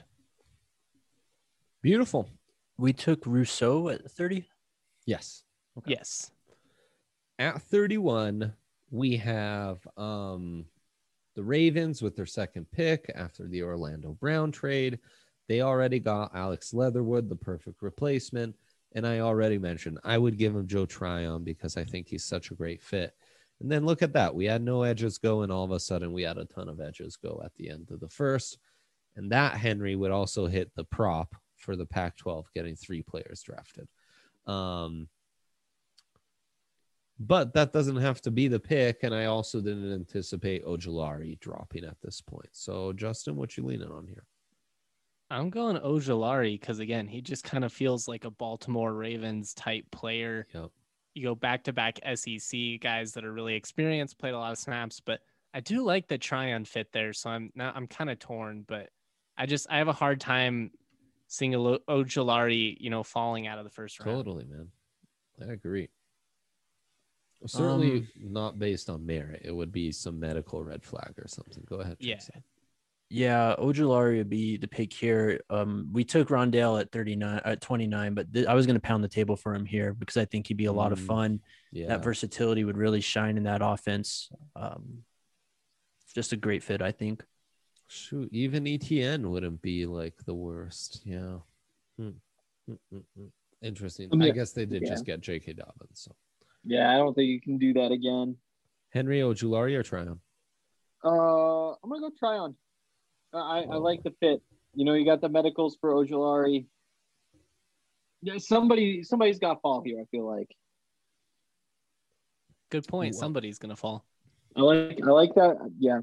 Beautiful. We took Rousseau at thirty? Yes. Okay. Yes. At thirty-one, we have um, the Ravens with their second pick after the Orlando Brown trade. They already got Alex Leatherwood, the perfect replacement. And I already mentioned I would give him Joe Tryon because I think he's such a great fit. And then look at that. We had no edges go, and all of a sudden we had a ton of edges go at the end of the first. And that, Henry, would also hit the prop for the Pac twelve, getting three players drafted. Um, but that doesn't have to be the pick. And I also didn't anticipate Ojulari dropping at this point. So, Justin, what you leaning on here? I'm going Ojulari because, again, he just kind of feels like a Baltimore Ravens type player. Yep. You go back-to-back S E C guys that are really experienced, played a lot of snaps, but I do like the Tryon fit there. So I'm not, I'm kind of torn, but I just, I have a hard time seeing a Ojulari, you know, falling out of the first round. Totally, man. I agree. Certainly Um, not based on merit. It would be some medical red flag or something. Go ahead. Yeah. Tracy. Yeah, Ojulari would be the pick here. Um, we took Rondale at thirty-nine, at twenty-nine, but th- I was going to pound the table for him here because I think he'd be a lot of Mm, fun. Yeah. That versatility would really shine in that offense. Um, just a great fit, I think. Shoot, even E T N wouldn't be like the worst. Yeah. Hmm. Mm, mm, mm. Interesting. Yeah. I guess they did Yeah. just get J K Dobbins. So Yeah, I don't think you can do that again. Henry Ojulari or Tryon? Uh, I'm gonna go Tryon. I, I Oh. like the fit. You know, you got the medicals for Ojulari. Yeah, somebody somebody's got to fall here. I feel like. Good point. Well- Somebody's going to fall. I like I like that. Yeah,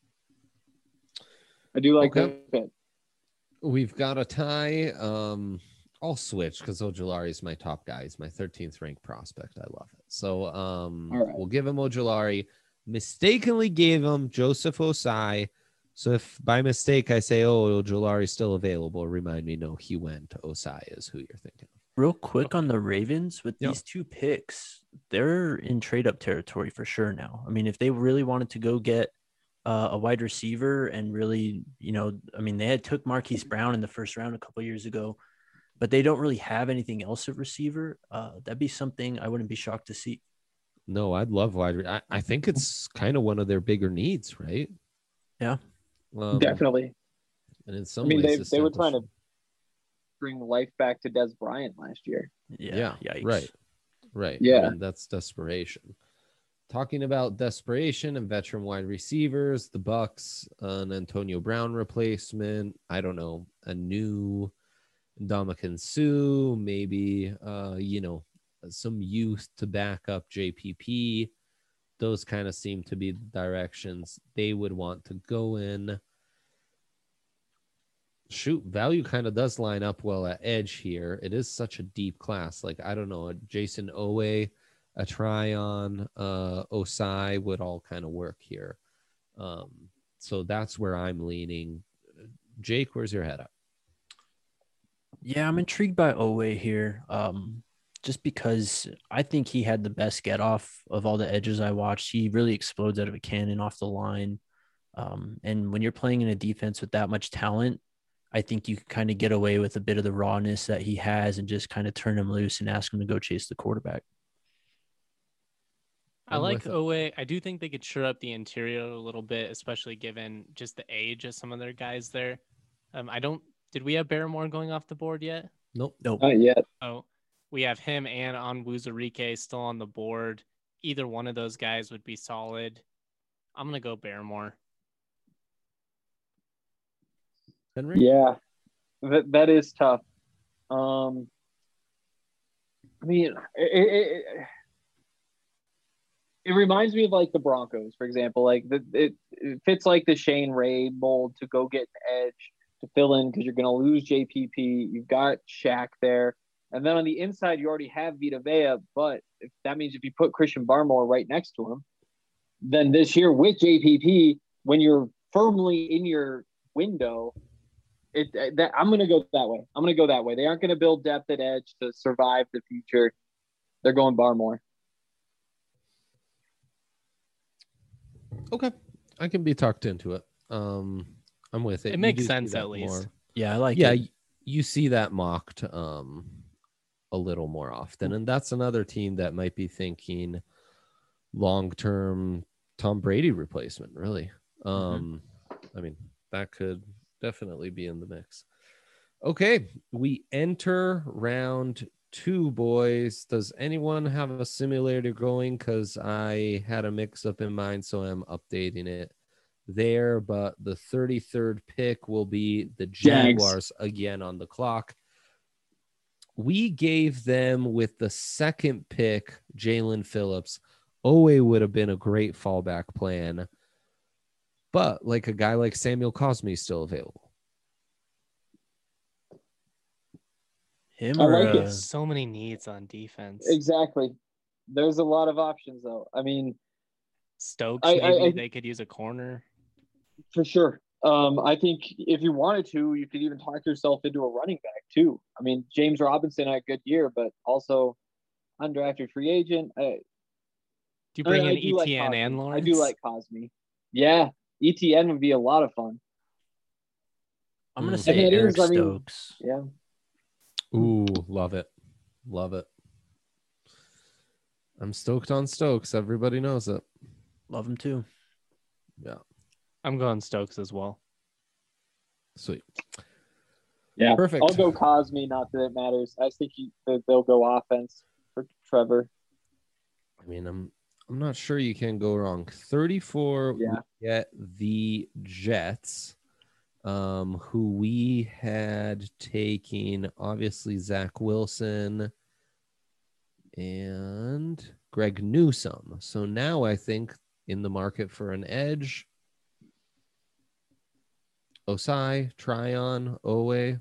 I do like Okay. the fit. We've got a tie. Um, I'll switch because Ojulari is my top guy. He's my thirteenth ranked prospect. I love it. So um, All right. we'll give him Ojulari. Mistakenly gave him Joseph Osai. So if by mistake I say, oh, Ojulari's still available, remind me, no, he went. Osai is who you're thinking of. Real quick on the Ravens with Yeah. these two picks, they're in trade up territory for sure now. I mean, if they really wanted to go get uh, a wide receiver and really, you know, I mean, they had took Marquise Brown in the first round a couple of years ago, but they don't really have anything else at receiver. Uh, that'd be something I wouldn't be shocked to see. No, I'd love wide. I, I think it's kind of one of their bigger needs, right? Yeah, um, definitely. And in some I mean, ways, they they were trying to establishing- bring life back to Des Bryant last year. yeah, yeah, yikes. right, right. Yeah. I mean, that's desperation. Talking about desperation and veteran wide receivers, the Bucks, an Antonio Brown replacement. I don't know, a new Ndamukong Suh, maybe. Uh, you know, some youth to back up J P P. Those kind of seem to be the directions they would want to go in. Shoot, value kind of does line up well at edge here. It is such a deep class. Like, I don't know, a Jason Owe, a Tryon, uh, Osai would all kind of work here. Um, so that's where I'm leaning. Jake, where's your head up? Yeah, I'm intrigued by Owe here. Um, just because I think he had the best get off of all the edges I watched. He really explodes out of a cannon off the line. Um, and when you're playing in a defense with that much talent, I think you can kind of get away with a bit of the rawness that he has and just kind of turn him loose and ask him to go chase the quarterback. I I'm like with it. Owe. I do think they could shore up the interior a little bit, especially given just the age of some of their guys there. Um, I don't. Did we have Barrymore going off the board yet? Nope. Nope. Not yet. Oh, we have him and Onwuzurike still on the board. Either one of those guys would be solid. I'm gonna go Barrymore. Henry? Yeah, that that is tough. Um, I mean, it, it, it reminds me of like the Broncos, for example. Like the, it, it fits like the Shane Ray mold to go get an edge to fill in because you're going to lose J P P. You've got Shaq there, and then on the inside you already have Vita Vea. But if, that means if you put Christian Barmore right next to him, then this year with J P P, when you're firmly in your window. It, that, I'm going to go that way. I'm going to go that way. They aren't going to build depth at edge to survive the future. They're going Barmore. Okay. I can be talked into it. Um, I'm with it. It You makes do see sense that at least. more. Yeah, I like Yeah, it. y- you see that mocked um, a little more often. And that's another team that might be thinking long-term Tom Brady replacement, really. Um, I mean, that could definitely be in the mix. Okay, we enter round two, boys. Does anyone have a simulator going? Because I had a mix-up in mind, so I'm updating it there. But the thirty-third pick will be the Jaguars again on the clock. We gave them with the second pick, Jalen Phillips. Owe would have been a great fallback plan. But like a guy like Samuel Cosme is still available. Him I or like it. uh, So many needs on defense. Exactly. There's a lot of options, though. I mean, Stokes, I- maybe I- I- they could use a corner. for sure. Um, I think if you wanted to, you could even talk yourself into a running back, too. I mean, James Robinson had a good year, but also undrafted free agent. I, Do you I bring mean, I in do like Etienne Cosme. and Lawrence? I do like Cosme. Yeah, E T N would be a lot of fun. I'm gonna Mm. say And it Eric is, I mean- Stokes. Yeah. Ooh, love it. Love it. I'm stoked on Stokes. Everybody knows it. Love him too. Yeah. I'm going Stokes as well. Sweet. Yeah. Perfect. I'll go Cosme, not that it matters. I think he, that they'll go offense for Trevor. I mean, I'm I'm not sure you can go wrong. thirty-four, Yeah. we get the Jets, um, who we had taking obviously Zach Wilson and Greg Newsome. So now I think in the market for an edge, Osai, Tryon, Owe.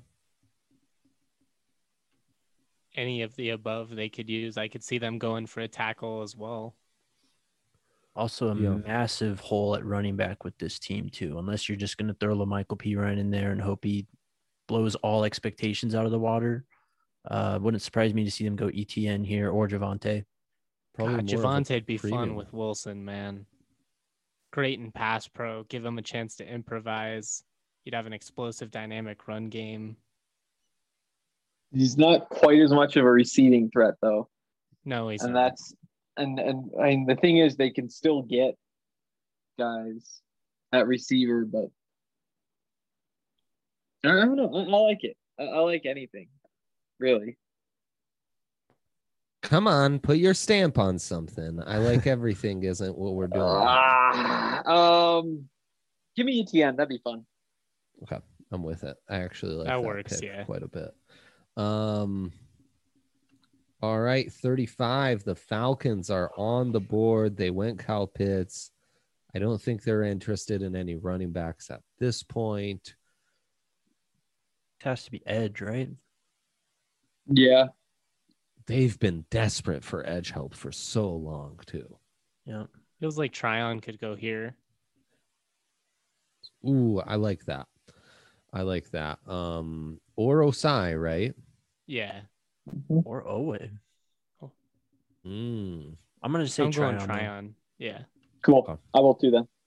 Any of the above they could use. I could see them going for a tackle as well. Also, a Yeah. massive hole at running back with this team too. Unless you're just going to throw LaMichael Pirine in there and hope he blows all expectations out of the water. Uh, wouldn't surprise me to see them go E T N here or Javante. Probably God, more of a Javonte'd be premium. fun with Wilson, man. Great in pass pro. Give him a chance to improvise. You'd have an explosive, dynamic run game. He's not quite as much of a receiving threat, though. No, he's And not. that's and and I mean the thing is they can still get guys at receiver, but I don't know. I, I like it. I, I like anything, really. Come on, put your stamp on something. I like everything isn't what we're doing. Uh, um, give me E T N. That'd be fun. Okay, I'm with it. I actually like that, that works, pick yeah. quite a bit. Um, all right, thirty-five. The Falcons are on the board. They went Kyle Pitts. I don't think they're interested in any running backs at this point. It has to be edge, right? Yeah. They've been desperate for edge help for so long, too. Yeah. Feels like Tryon could go here. Ooh, I like that. I like that. Um, or Osai, right? Yeah. Or Owe. Mm. I'm gonna say I'm Tryon. going Tryon. Yeah. Cool. Okay. I will too then.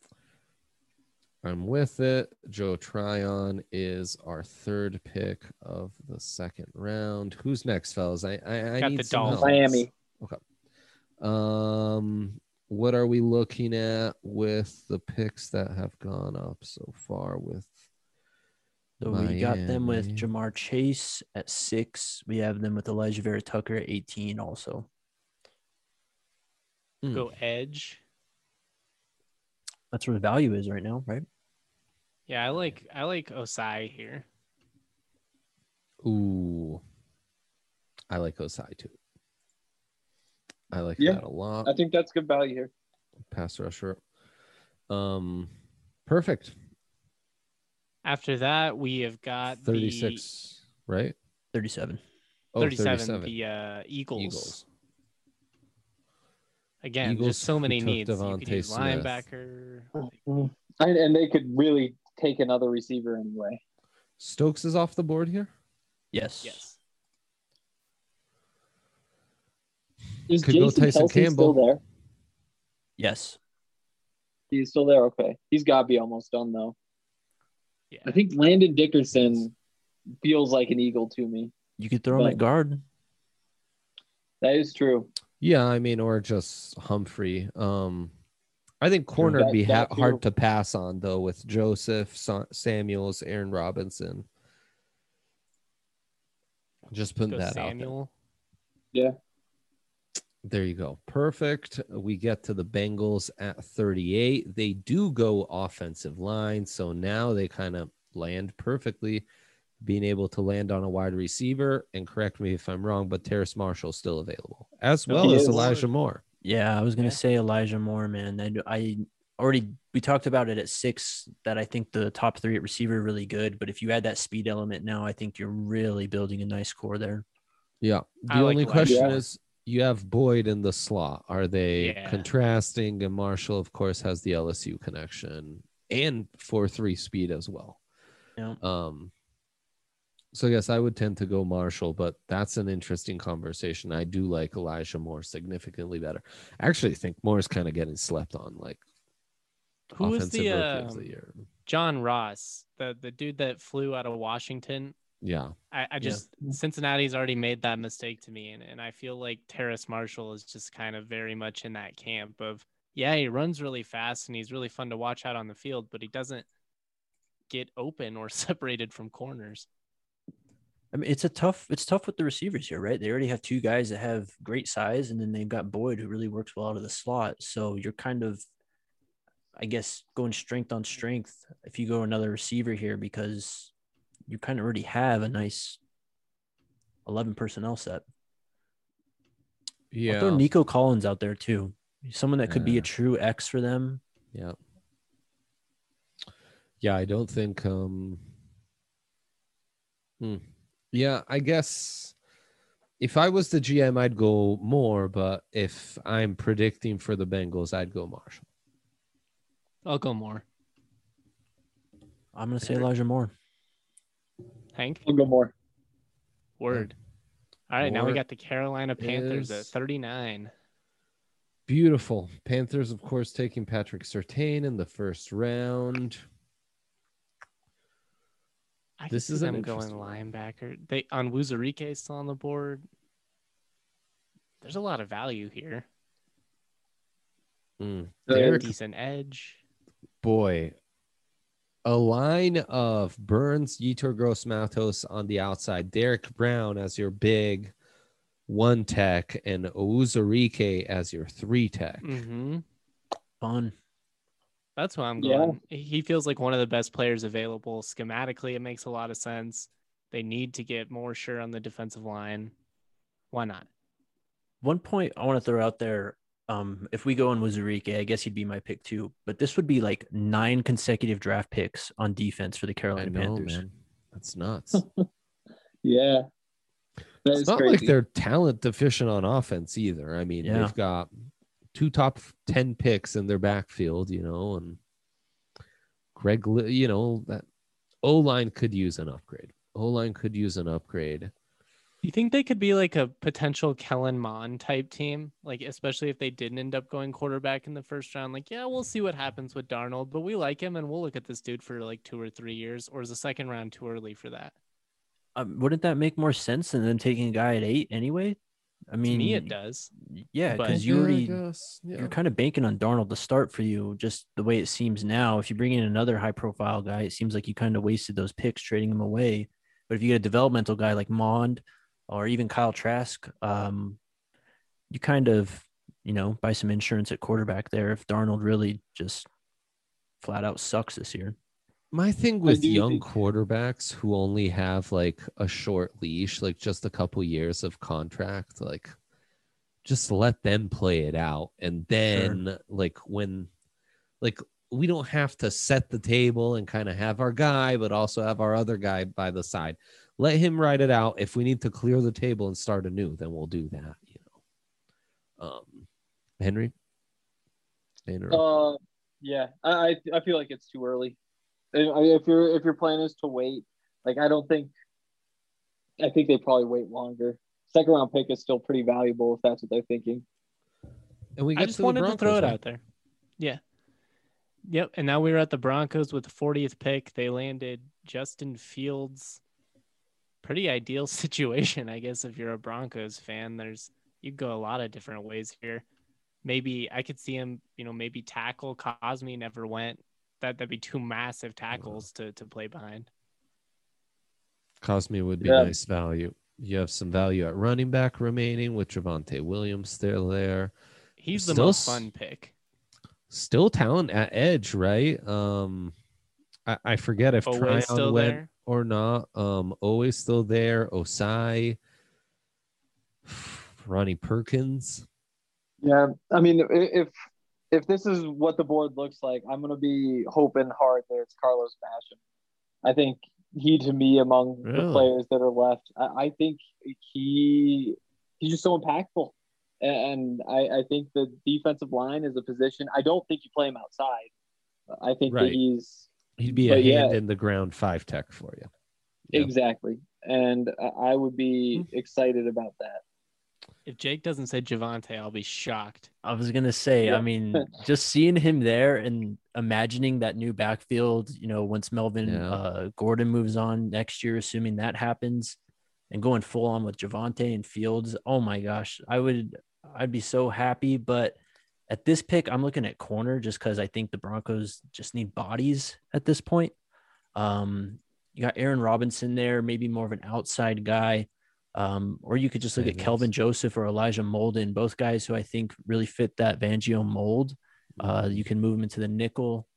I'm with it. Joe Tryon is our third pick of the second round. Who's next, fellas? I I, I Got need the some help. Dolphins. Miami. Okay. Um, what are we looking at with the picks that have gone up so far with So we got them with Miami? Jamar Chase at six. We have them with Elijah Vera Tucker at eighteen also. Mm. Go edge. That's where the value is right now, right? Yeah, I like I like Osai here. Ooh. I like Osai too. I like Yeah. that a lot. I think that's good value here. Pass rusher. Um, perfect. After that, we have got thirty-six, right? thirty-seven. Oh, thirty-seven, thirty-seven. the uh, Eagles. Eagles. Again, Eagles just so who many took needs. You Devontae could use Smith. linebacker. And, and they could really take another receiver anyway. Stokes is off the board here. Yes. Yes. Is Could go Jason Tyson Kelsey Campbell. still there? Yes. He's still there. Okay. He's got to be almost done, though. Yeah. I think Landon Dickerson feels like an Eagle to me. You could throw him But- at guard. That is true. Yeah, I mean, or just Humphrey. Um, I think corner would That- be ha- that too. hard to pass on though with Joseph Sa- Samuels, Aaron Robinson. Just putting Go that Samuel. Yeah. out there. There you go. Perfect. We get to the Bengals at thirty-eight. They do go offensive line, so now they kind of land perfectly, being able to land on a wide receiver. And correct me if I'm wrong, but Terrace Marshall's still available, as well He as is. Elijah Moore. Yeah, I was gonna Yeah. say Elijah Moore, man. I, I already we talked about it at six that I think the top three at receiver are really good, but if you add that speed element now, I think you're really building a nice core there. Yeah. The I like only Elijah question Moore. is, you have Boyd in the slot. Are they Yeah. contrasting? And Marshall, of course, has the L S U connection and four three speed as well. Yeah. Um. So yes, I would tend to go Marshall, but that's an interesting conversation. I do like Elijah Moore significantly better. I actually think Moore is kind of getting slept on, like Who was offensive the rookie of um, the year. John Ross, the the dude that flew out of Washington? Yeah. I, I just Cincinnati's already made that mistake to me, and, and I feel like Terrace Marshall is just kind of very much in that camp of, yeah, he runs really fast and he's really fun to watch out on the field, but he doesn't get open or separated from corners. I mean, it's a tough, it's tough with the receivers here, right? They already have two guys that have great size, and then they've got Boyd who really works well out of the slot. So you're kind of, I guess, going strength on strength if you go another receiver here, because you kind of already have a nice eleven personnel set. Yeah. I'll throw Nico Collins out there too. Someone that could be Yeah. a true X for them. Yeah. Yeah, I don't think um hmm. Yeah, I guess if I was the G M, I'd go Moore, but if I'm predicting for the Bengals, I'd go Marshall. I'll go more. I'm going to say Elijah Moore. Hank? I'll go more. Word. All right, now we Moore got the Carolina Panthers is- at thirty-nine. Beautiful. Panthers, of course, taking Patrick Surtain in the first round. I could This see is an them going interesting one. linebacker. They on Wuzurike still on the board. There's a lot of value here. Mm. Derek, decent edge. Boy, a line of Burns, Yetur Gross-Matos on the outside, Derek Brown as your big one tech, and Uzurike as your three tech. Mm-hmm. Fun. That's why I'm Yeah. going. He feels like one of the best players available. Schematically, it makes a lot of sense. They need to get more sure on the defensive line. Why not? One point I want to throw out there. Um, if we go on Uzurike, I guess he'd be my pick too. But this would be like nine consecutive draft picks on defense for the I Carolina know, Panthers. man. That's nuts. yeah. That It's is not crazy. like they're talent deficient on offense either. I mean, Yeah. they've got two top ten picks in their backfield, you know, and Greg, Li- you know, that O-line could use an upgrade. O-line could use an upgrade. You think they could be like a potential Kellen Mond type team? Like, especially if they didn't end up going quarterback in the first round. Like, yeah, we'll see what happens with Darnold, but we like him and we'll look at this dude for like two or three years. Or is the second round too early for that? Um, wouldn't that make more sense than them taking a guy at eight anyway? I mean, To me, it does. yeah, but- because you Yeah, I already guess, yeah. you're kind of banking on Darnold to start for you. Just the way it seems now. If you bring in another high profile guy, it seems like you kind of wasted those picks trading him away. But if you get a developmental guy like Mond or even Kyle Trask, um, you kind of you know buy some insurance at quarterback there if Darnold really just flat out sucks this year. My thing with do young think- quarterbacks who only have like a short leash, like just a couple years of contract, like just let them play it out. And then like when like we don't have to set the table and kind of have our guy, but also have our other guy by the side. Let him ride it out. If we need to clear the table and start anew, then we'll do that, you know. Um Henry? Henry? Uh, yeah, I I I feel like it's too early. And I- If your if your plan is to wait, like I don't think, I think they probably wait longer. Second round pick is still pretty valuable if that's what they're thinking. and we I get just to the wanted to Broncos, throw it right? out there. Yeah. Yep. And now we're at the Broncos with the fortieth pick. They landed Justin Fields. Pretty ideal situation, I guess, if you're a Broncos fan. There's you could go a lot of different ways here. Maybe I could see him, you know, maybe tackle. Cosme never went. That that'd be two massive tackles to to play behind. Cosme would be Yeah. nice value. You have some value at running back remaining with Javonte Williams still there. He's the Still most s- fun pick. Still talent at edge, right? Um, I, I forget if Always Tryon still went there. or not. Um, always still there. Osai, Ronnie Perkins. Yeah, I mean, i- if if this is what the board looks like, I'm gonna be hoping hard that it's Carlos Basham. I think he, to me, among the Really? players that are left, I, I think he he's just so impactful, and I, I think the defensive line is a position. I don't think you play him outside. I think Right. that he's He'd be a But yeah. hand in the ground five tech for you. Yeah. exactly, and I I would be excited about that. If Jake doesn't say Javante, I'll be shocked. I was gonna say, Yeah. I mean, just seeing him there and imagining that new backfield, you know, once Melvin Yeah. uh, Gordon moves on next year, assuming that happens, and going full on with Javante and Fields. Oh my gosh, I would, I'd be so happy. But at this pick, I'm looking at corner just because I think the Broncos just need bodies at this point. Um, you got Aaron Robinson there, maybe more of an outside guy. Um, or you could just look at Ravens. Kelvin Joseph or Elijah Molden, both guys who I think really fit that Fangio mold. Uh, you can move them into the nickel.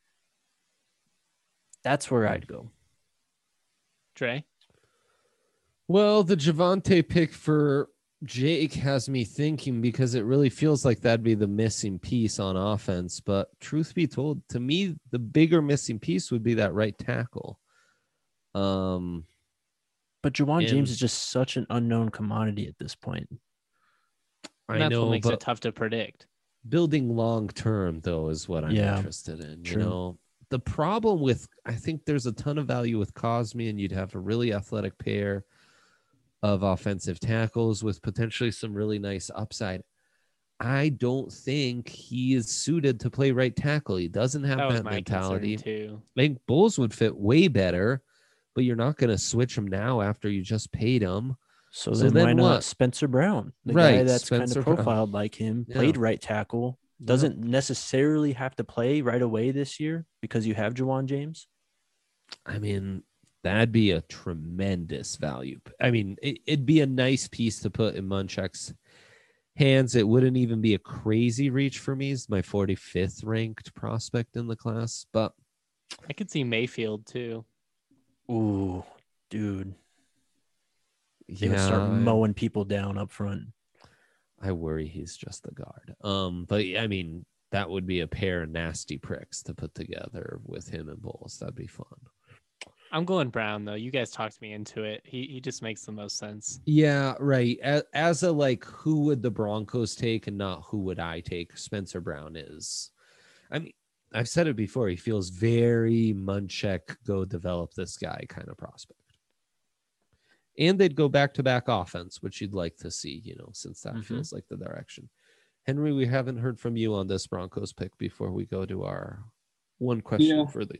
That's where I'd go. Dre? Well, the Javante pick for Jake has me thinking because it really feels like that'd be the missing piece on offense. But truth be told, to me, the bigger missing piece would be that right tackle. Um, But Juwan And- James is just such an unknown commodity at this point. And I that's know, what makes but it tough to predict. building long term though is what I'm Yeah, interested in. true. You know, the problem with I think there's a ton of value with Cosme, and you'd have a really athletic pair of offensive tackles with potentially some really nice upside. I don't think he is suited to play right tackle. He doesn't have That was that my mentality. concern too. I think Bulls would fit way better, but you're not going to switch him now after you just paid him. So, So then, then why not what? Spencer Brown, the Right, guy that's Spencer kind Brown. of profiled like him, Yeah. played right tackle, doesn't necessarily have to play right away this year because you have Juwan James. I mean, that'd be a tremendous value. I mean, it, it'd be a nice piece to put in Munchak's hands. It wouldn't even be a crazy reach for me. He's my forty-fifth ranked prospect in the class, but I could see Mayfield too. Ooh, dude. They would yeah, start mowing people down up front. I worry he's just the guard. Um, but I mean, that would be a pair of nasty pricks to put together with him and Bowles. That'd be fun. I'm going Brown though. You guys talked me into it. He he just makes the most sense. Yeah, right. As, as a like, who would the Broncos take and not who would I take? Spencer Brown is. I mean, I've said it before. He feels very Munchak, go develop this guy kind of prospect. And they'd go back to back offense, which you'd like to see, you know, since that mm-hmm. feels like the direction. Henry, we haven't heard from you on this Broncos pick before we go to our one question yeah. for the.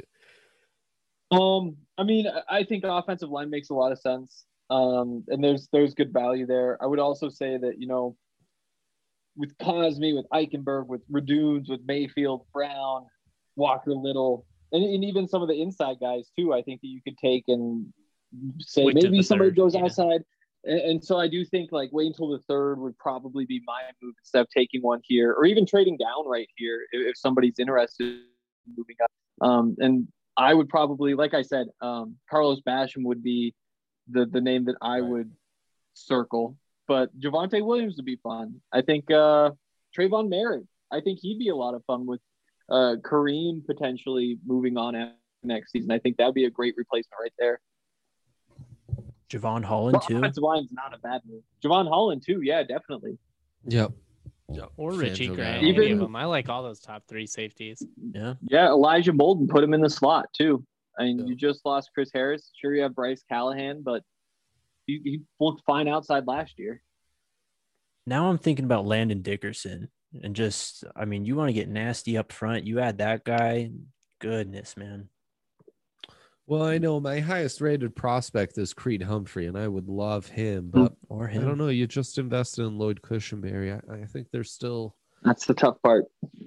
Um, I mean, I think offensive line makes a lot of sense. Um, and there's there's good value there. I would also say that, you know, with Cosme, with Eichenberg, with Radunes, with Mayfield, Brown, Walker Little, and, and even some of the inside guys too, I think that you could take and say wait maybe somebody third, goes yeah. outside. And, and so I do think like wait until the third would probably be my move instead of taking one here or even trading down right here if, if somebody's interested in moving up. Um, and I would probably, like I said, um, Carlos Basham would be the, the name that I right. would circle. But Javonte Williams would be fun. I think uh, Trayvon Merritt, I think he'd be a lot of fun with uh, Kareem potentially moving on next season. I think that'd be a great replacement right there. Javon Holland, well, too. Offensive line's not a bad move. Javon Holland, too. Yeah, definitely. Yep. Yep. Or Richie Grant. Even any of them. I like all those top three safeties. Yeah. Yeah, Elijah Molden, put him in the slot, too. I mean, yeah. you just lost Chris Harris. Sure, you have Bryce Callahan, but he, he looked fine outside last year. Now I'm thinking about Landon Dickerson. And just, I mean, you want to get nasty up front. You add that guy. Goodness, man. Well, I know my highest rated prospect is Creed Humphrey, and I would love him, but or him. I don't know. You just invested in Lloyd Cushenberry. I, I think there's still. That's the tough part.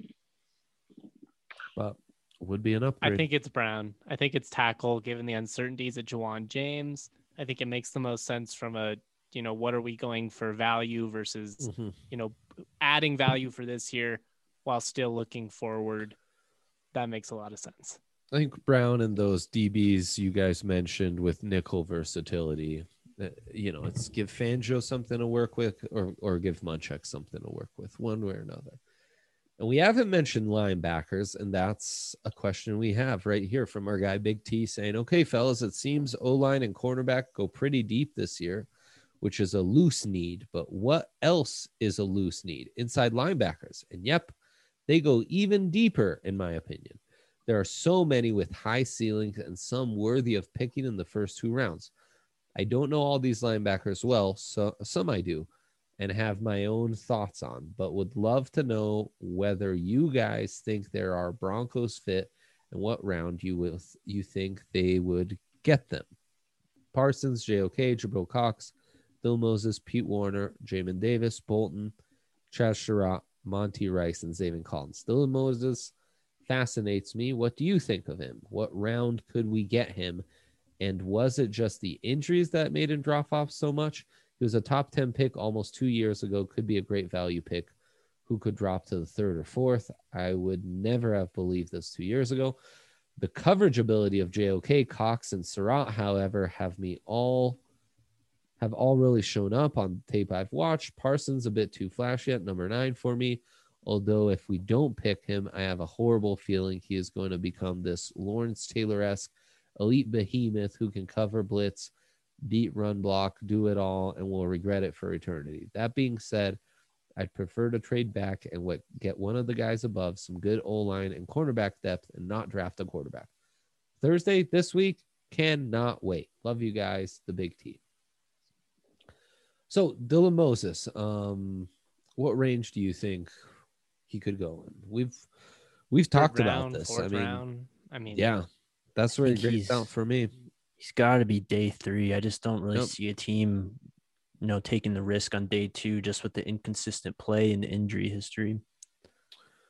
But would be an upgrade. I think it's Brown. I think it's tackle, given the uncertainties at Juwan James. I think it makes the most sense from a, you know, what are we going for value versus, mm-hmm. you know, adding value for this year while still looking forward. That makes a lot of sense. I think Brown and those D Bs you guys mentioned with nickel versatility, uh, you know, it's give Fangio something to work with or or give Munchak something to work with, one way or another. And we haven't mentioned linebackers, and that's a question we have right here from our guy Big T saying, okay, fellas, it seems O-line and cornerback go pretty deep this year, which is a loose need. But what else is a loose need? Inside linebackers. And yep, they go even deeper, in my opinion. There are so many with high ceilings and some worthy of picking in the first two rounds. I don't know all these linebackers well, so some I do and have my own thoughts on, but would love to know whether you guys think there are Broncos fit and what round you will you think they would get them. Parsons, J O K, Jabril Cox, Bill Moses, Pete Warner, Jamin Davis, Bolton, Chaz Surratt, Monty Rice, and Zaven Collins. Dylan Moses fascinates me. What do you think of him? What round could we get him? And was it just the injuries that made him drop off so much? He was a top ten pick almost two years ago. Could be a great value pick. Who could drop to the third or fourth? I would never have believed this two years ago. The coverage ability of J O K, Cox, and Surratt, however, have me all have all really shown up on tape I've watched. Parsons a bit too flashy at number nine for me. Although if we don't pick him, I have a horrible feeling he is going to become this Lawrence Taylor-esque elite behemoth who can cover blitz, beat run block, do it all, and will regret it for eternity. That being said, I'd prefer to trade back and what, get one of the guys above, some good O-line and cornerback depth, and not draft a quarterback. Thursday this week, cannot wait. Love you guys, the Big T. So Dylan Moses, um, what range do you think he could go in? We've we've Third talked round, about this. I mean, round. I mean, yeah, that's where it gets out for me. He's got to be day three. I just don't really Nope. see a team, you know, taking the risk on day two just with the inconsistent play and the injury history.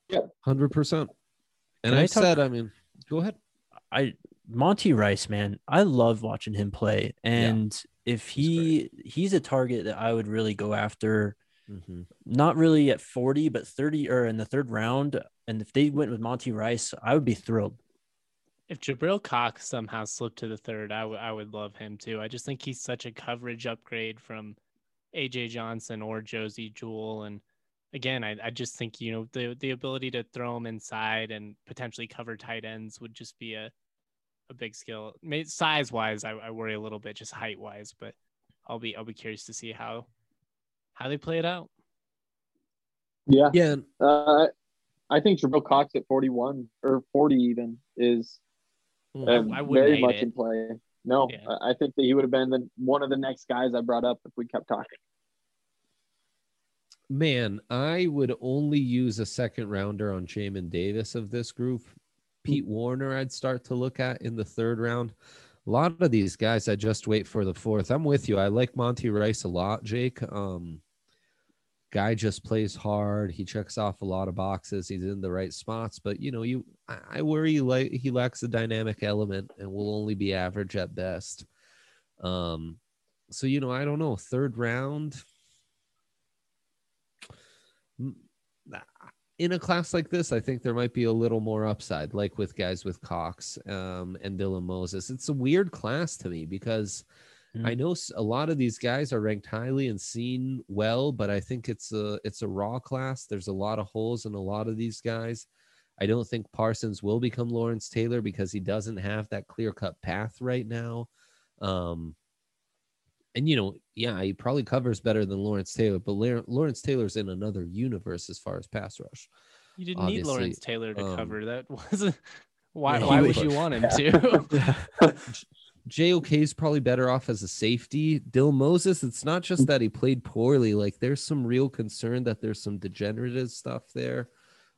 Yeah, hundred percent. And Can I I talk- said, I mean, go ahead. I Monty Rice, man, I love watching him play. And if he he's a target that I would really go after, Mm-hmm. not really at forty, but thirty or in the third round. And if they went with Monty Rice, I would be thrilled. If Jabril Cox somehow slipped to the third, I, w- I would love him too. I just think he's such a coverage upgrade from A J Johnson or Josie Jewell. And again, I, I just think, you know, the the ability to throw him inside and potentially cover tight ends would just be a, a big skill. Size wise, I, I worry a little bit, just height wise, but I'll be I'll be curious to see how how they play it out. Yeah. Yeah. Uh, I think Jabril Cox at forty-one or forty even is I, uh, I wouldn't very hate much it. in play. No, Yeah. I I think that he would have been the, one of the next guys I brought up if we kept talking. Man, I would only use a second rounder on Jamin Davis of this group. Pete Warner, I'd start to look at in the third round. A lot of these guys, I just wait for the fourth. I'm with you. I like Monty Rice a lot, Jake. Um, guy just plays hard. He checks off a lot of boxes. He's in the right spots, but you know, you I, I worry like he lacks a dynamic element and will only be average at best. Um, so you know, I don't know. Third round. In a class like this, I think there might be a little more upside, like with guys with Cox um, and Dylan Moses. It's a weird class to me because mm. I know a lot of these guys are ranked highly and seen well, but I think it's a it's a raw class. There's a lot of holes in a lot of these guys. I don't think Parsons will become Lawrence Taylor because he doesn't have that clear-cut path right now. Um, And, you know, yeah, he probably covers better than Lawrence Taylor, but Lawrence Taylor's in another universe as far as pass rush. You didn't Obviously, need Lawrence Taylor to um, cover that. Wasn't why? Yeah, why would, would you want him to? J O K is probably better off as a safety. Dylan Moses, it's not just that he played poorly. Like, there's some real concern that there's some degenerative stuff there.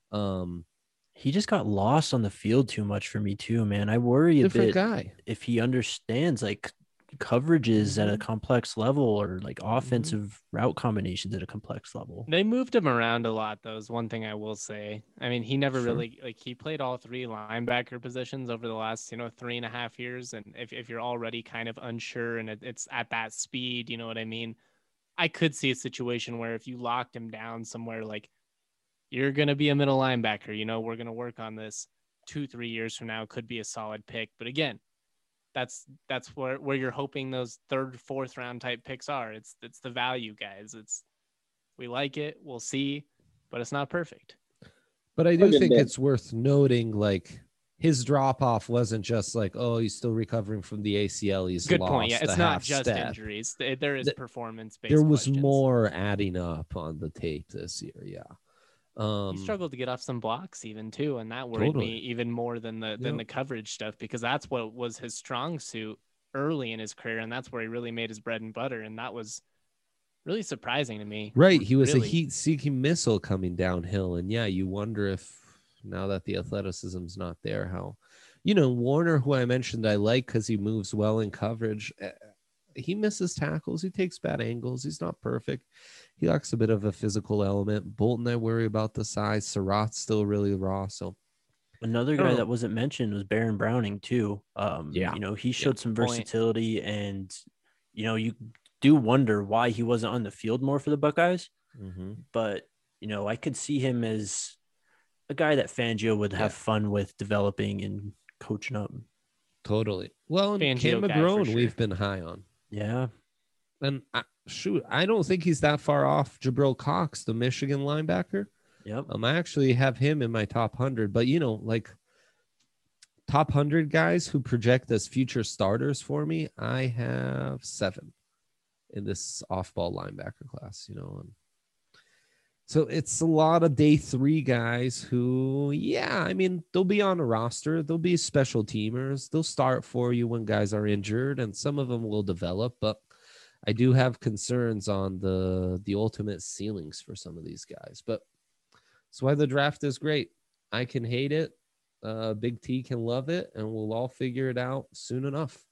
Um, he just got lost on the field too much for me too, man. I worry a bit guy. if he understands, like, coverages mm-hmm. at a complex level or like offensive mm-hmm. route combinations at a complex level. They moved him around a lot, though, is one thing I will say. I mean, he never sure. really, like, he played all three linebacker positions over the last, you know, three and a half years. And if, if you're already kind of unsure and it, it's at that speed, you know what I mean? I could see a situation where if you locked him down somewhere, like, you're going to be a middle linebacker, you know, we're going to work on this two, three years from now, could be a solid pick. But again, That's that's where, where you're hoping those third, fourth round type picks are. It's it's the value, guys. It's we like it, we'll see, but it's not perfect. But I do think it's worth noting, like, his drop off wasn't just like, oh, he's still recovering from the A C L. He's good lost point. Yeah, it's not just step. injuries. There is performance based. There was questions. more adding up on the tape this year. Yeah. Um, he struggled to get off some blocks even too, and that worried totally. me even more than the than yep. the coverage stuff, because that's what was his strong suit early in his career, and that's where he really made his bread and butter, and that was really surprising to me. Right, he was really. a heat-seeking missile coming downhill, and yeah, you wonder if now that the athleticism's not there, how, you know, Warner, who I mentioned I like because he moves well in coverage. He misses tackles. He takes bad angles. He's not perfect. He lacks a bit of a physical element. Bolton, I worry about the size. Surratt's still really raw. So another guy that wasn't mentioned was Baron Browning too. Um, yeah, you know, he showed yeah, some point. versatility, and you know, you do wonder why he wasn't on the field more for the Buckeyes. Mm-hmm. But you know, I could see him as a guy that Fangio would have yeah. fun with developing and coaching up. Totally. Well, and Fangio Cam McGrone, sure. we've been high on. Yeah. And I, shoot, I don't think he's that far off Jabril Cox, the Michigan linebacker. Yep. Um, I actually have him in my top one hundred, but you know, like top one hundred guys who project as future starters for me, I have seven in this off-ball linebacker class, you know. And so it's a lot of day three guys who, yeah, I mean, they'll be on a roster. They'll be special teamers. They'll start for you when guys are injured, and some of them will develop, but I do have concerns on the the ultimate ceilings for some of these guys. But that's why the draft is great. I can hate it. Uh, Big T can love it, and we'll all figure it out soon enough.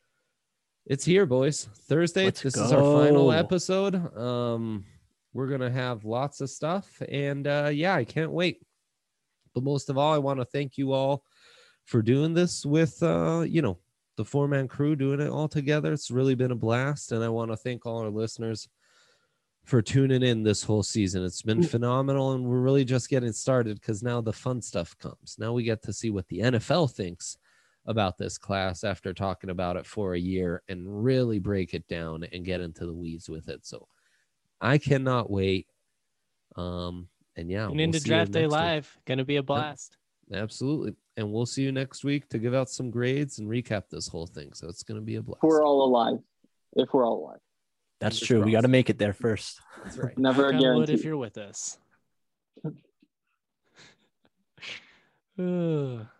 It's here, boys. Thursday. Let's this go. is our final episode. Um, we're going to have lots of stuff. And, uh, yeah, I can't wait. But most of all, I want to thank you all for doing this with, uh, you know, the four-man crew, doing it all together. It's really been a blast. And I want to thank all our listeners for tuning in this whole season. It's been phenomenal, and we're really just getting started because now the fun stuff comes. Now we get to see what the N F L thinks about this class after talking about it for a year and really break it down and get into the weeds with it. So I cannot wait. Um, and yeah, and we'll into Draft Day Live, week. Gonna be a blast. Yep. Absolutely. And we'll see you next week to give out some grades and recap this whole thing. So it's going to be a blast. If we're all alive. If we're all alive. That's true. We got to make it there first. That's right. Never a guarantee. If you're with us.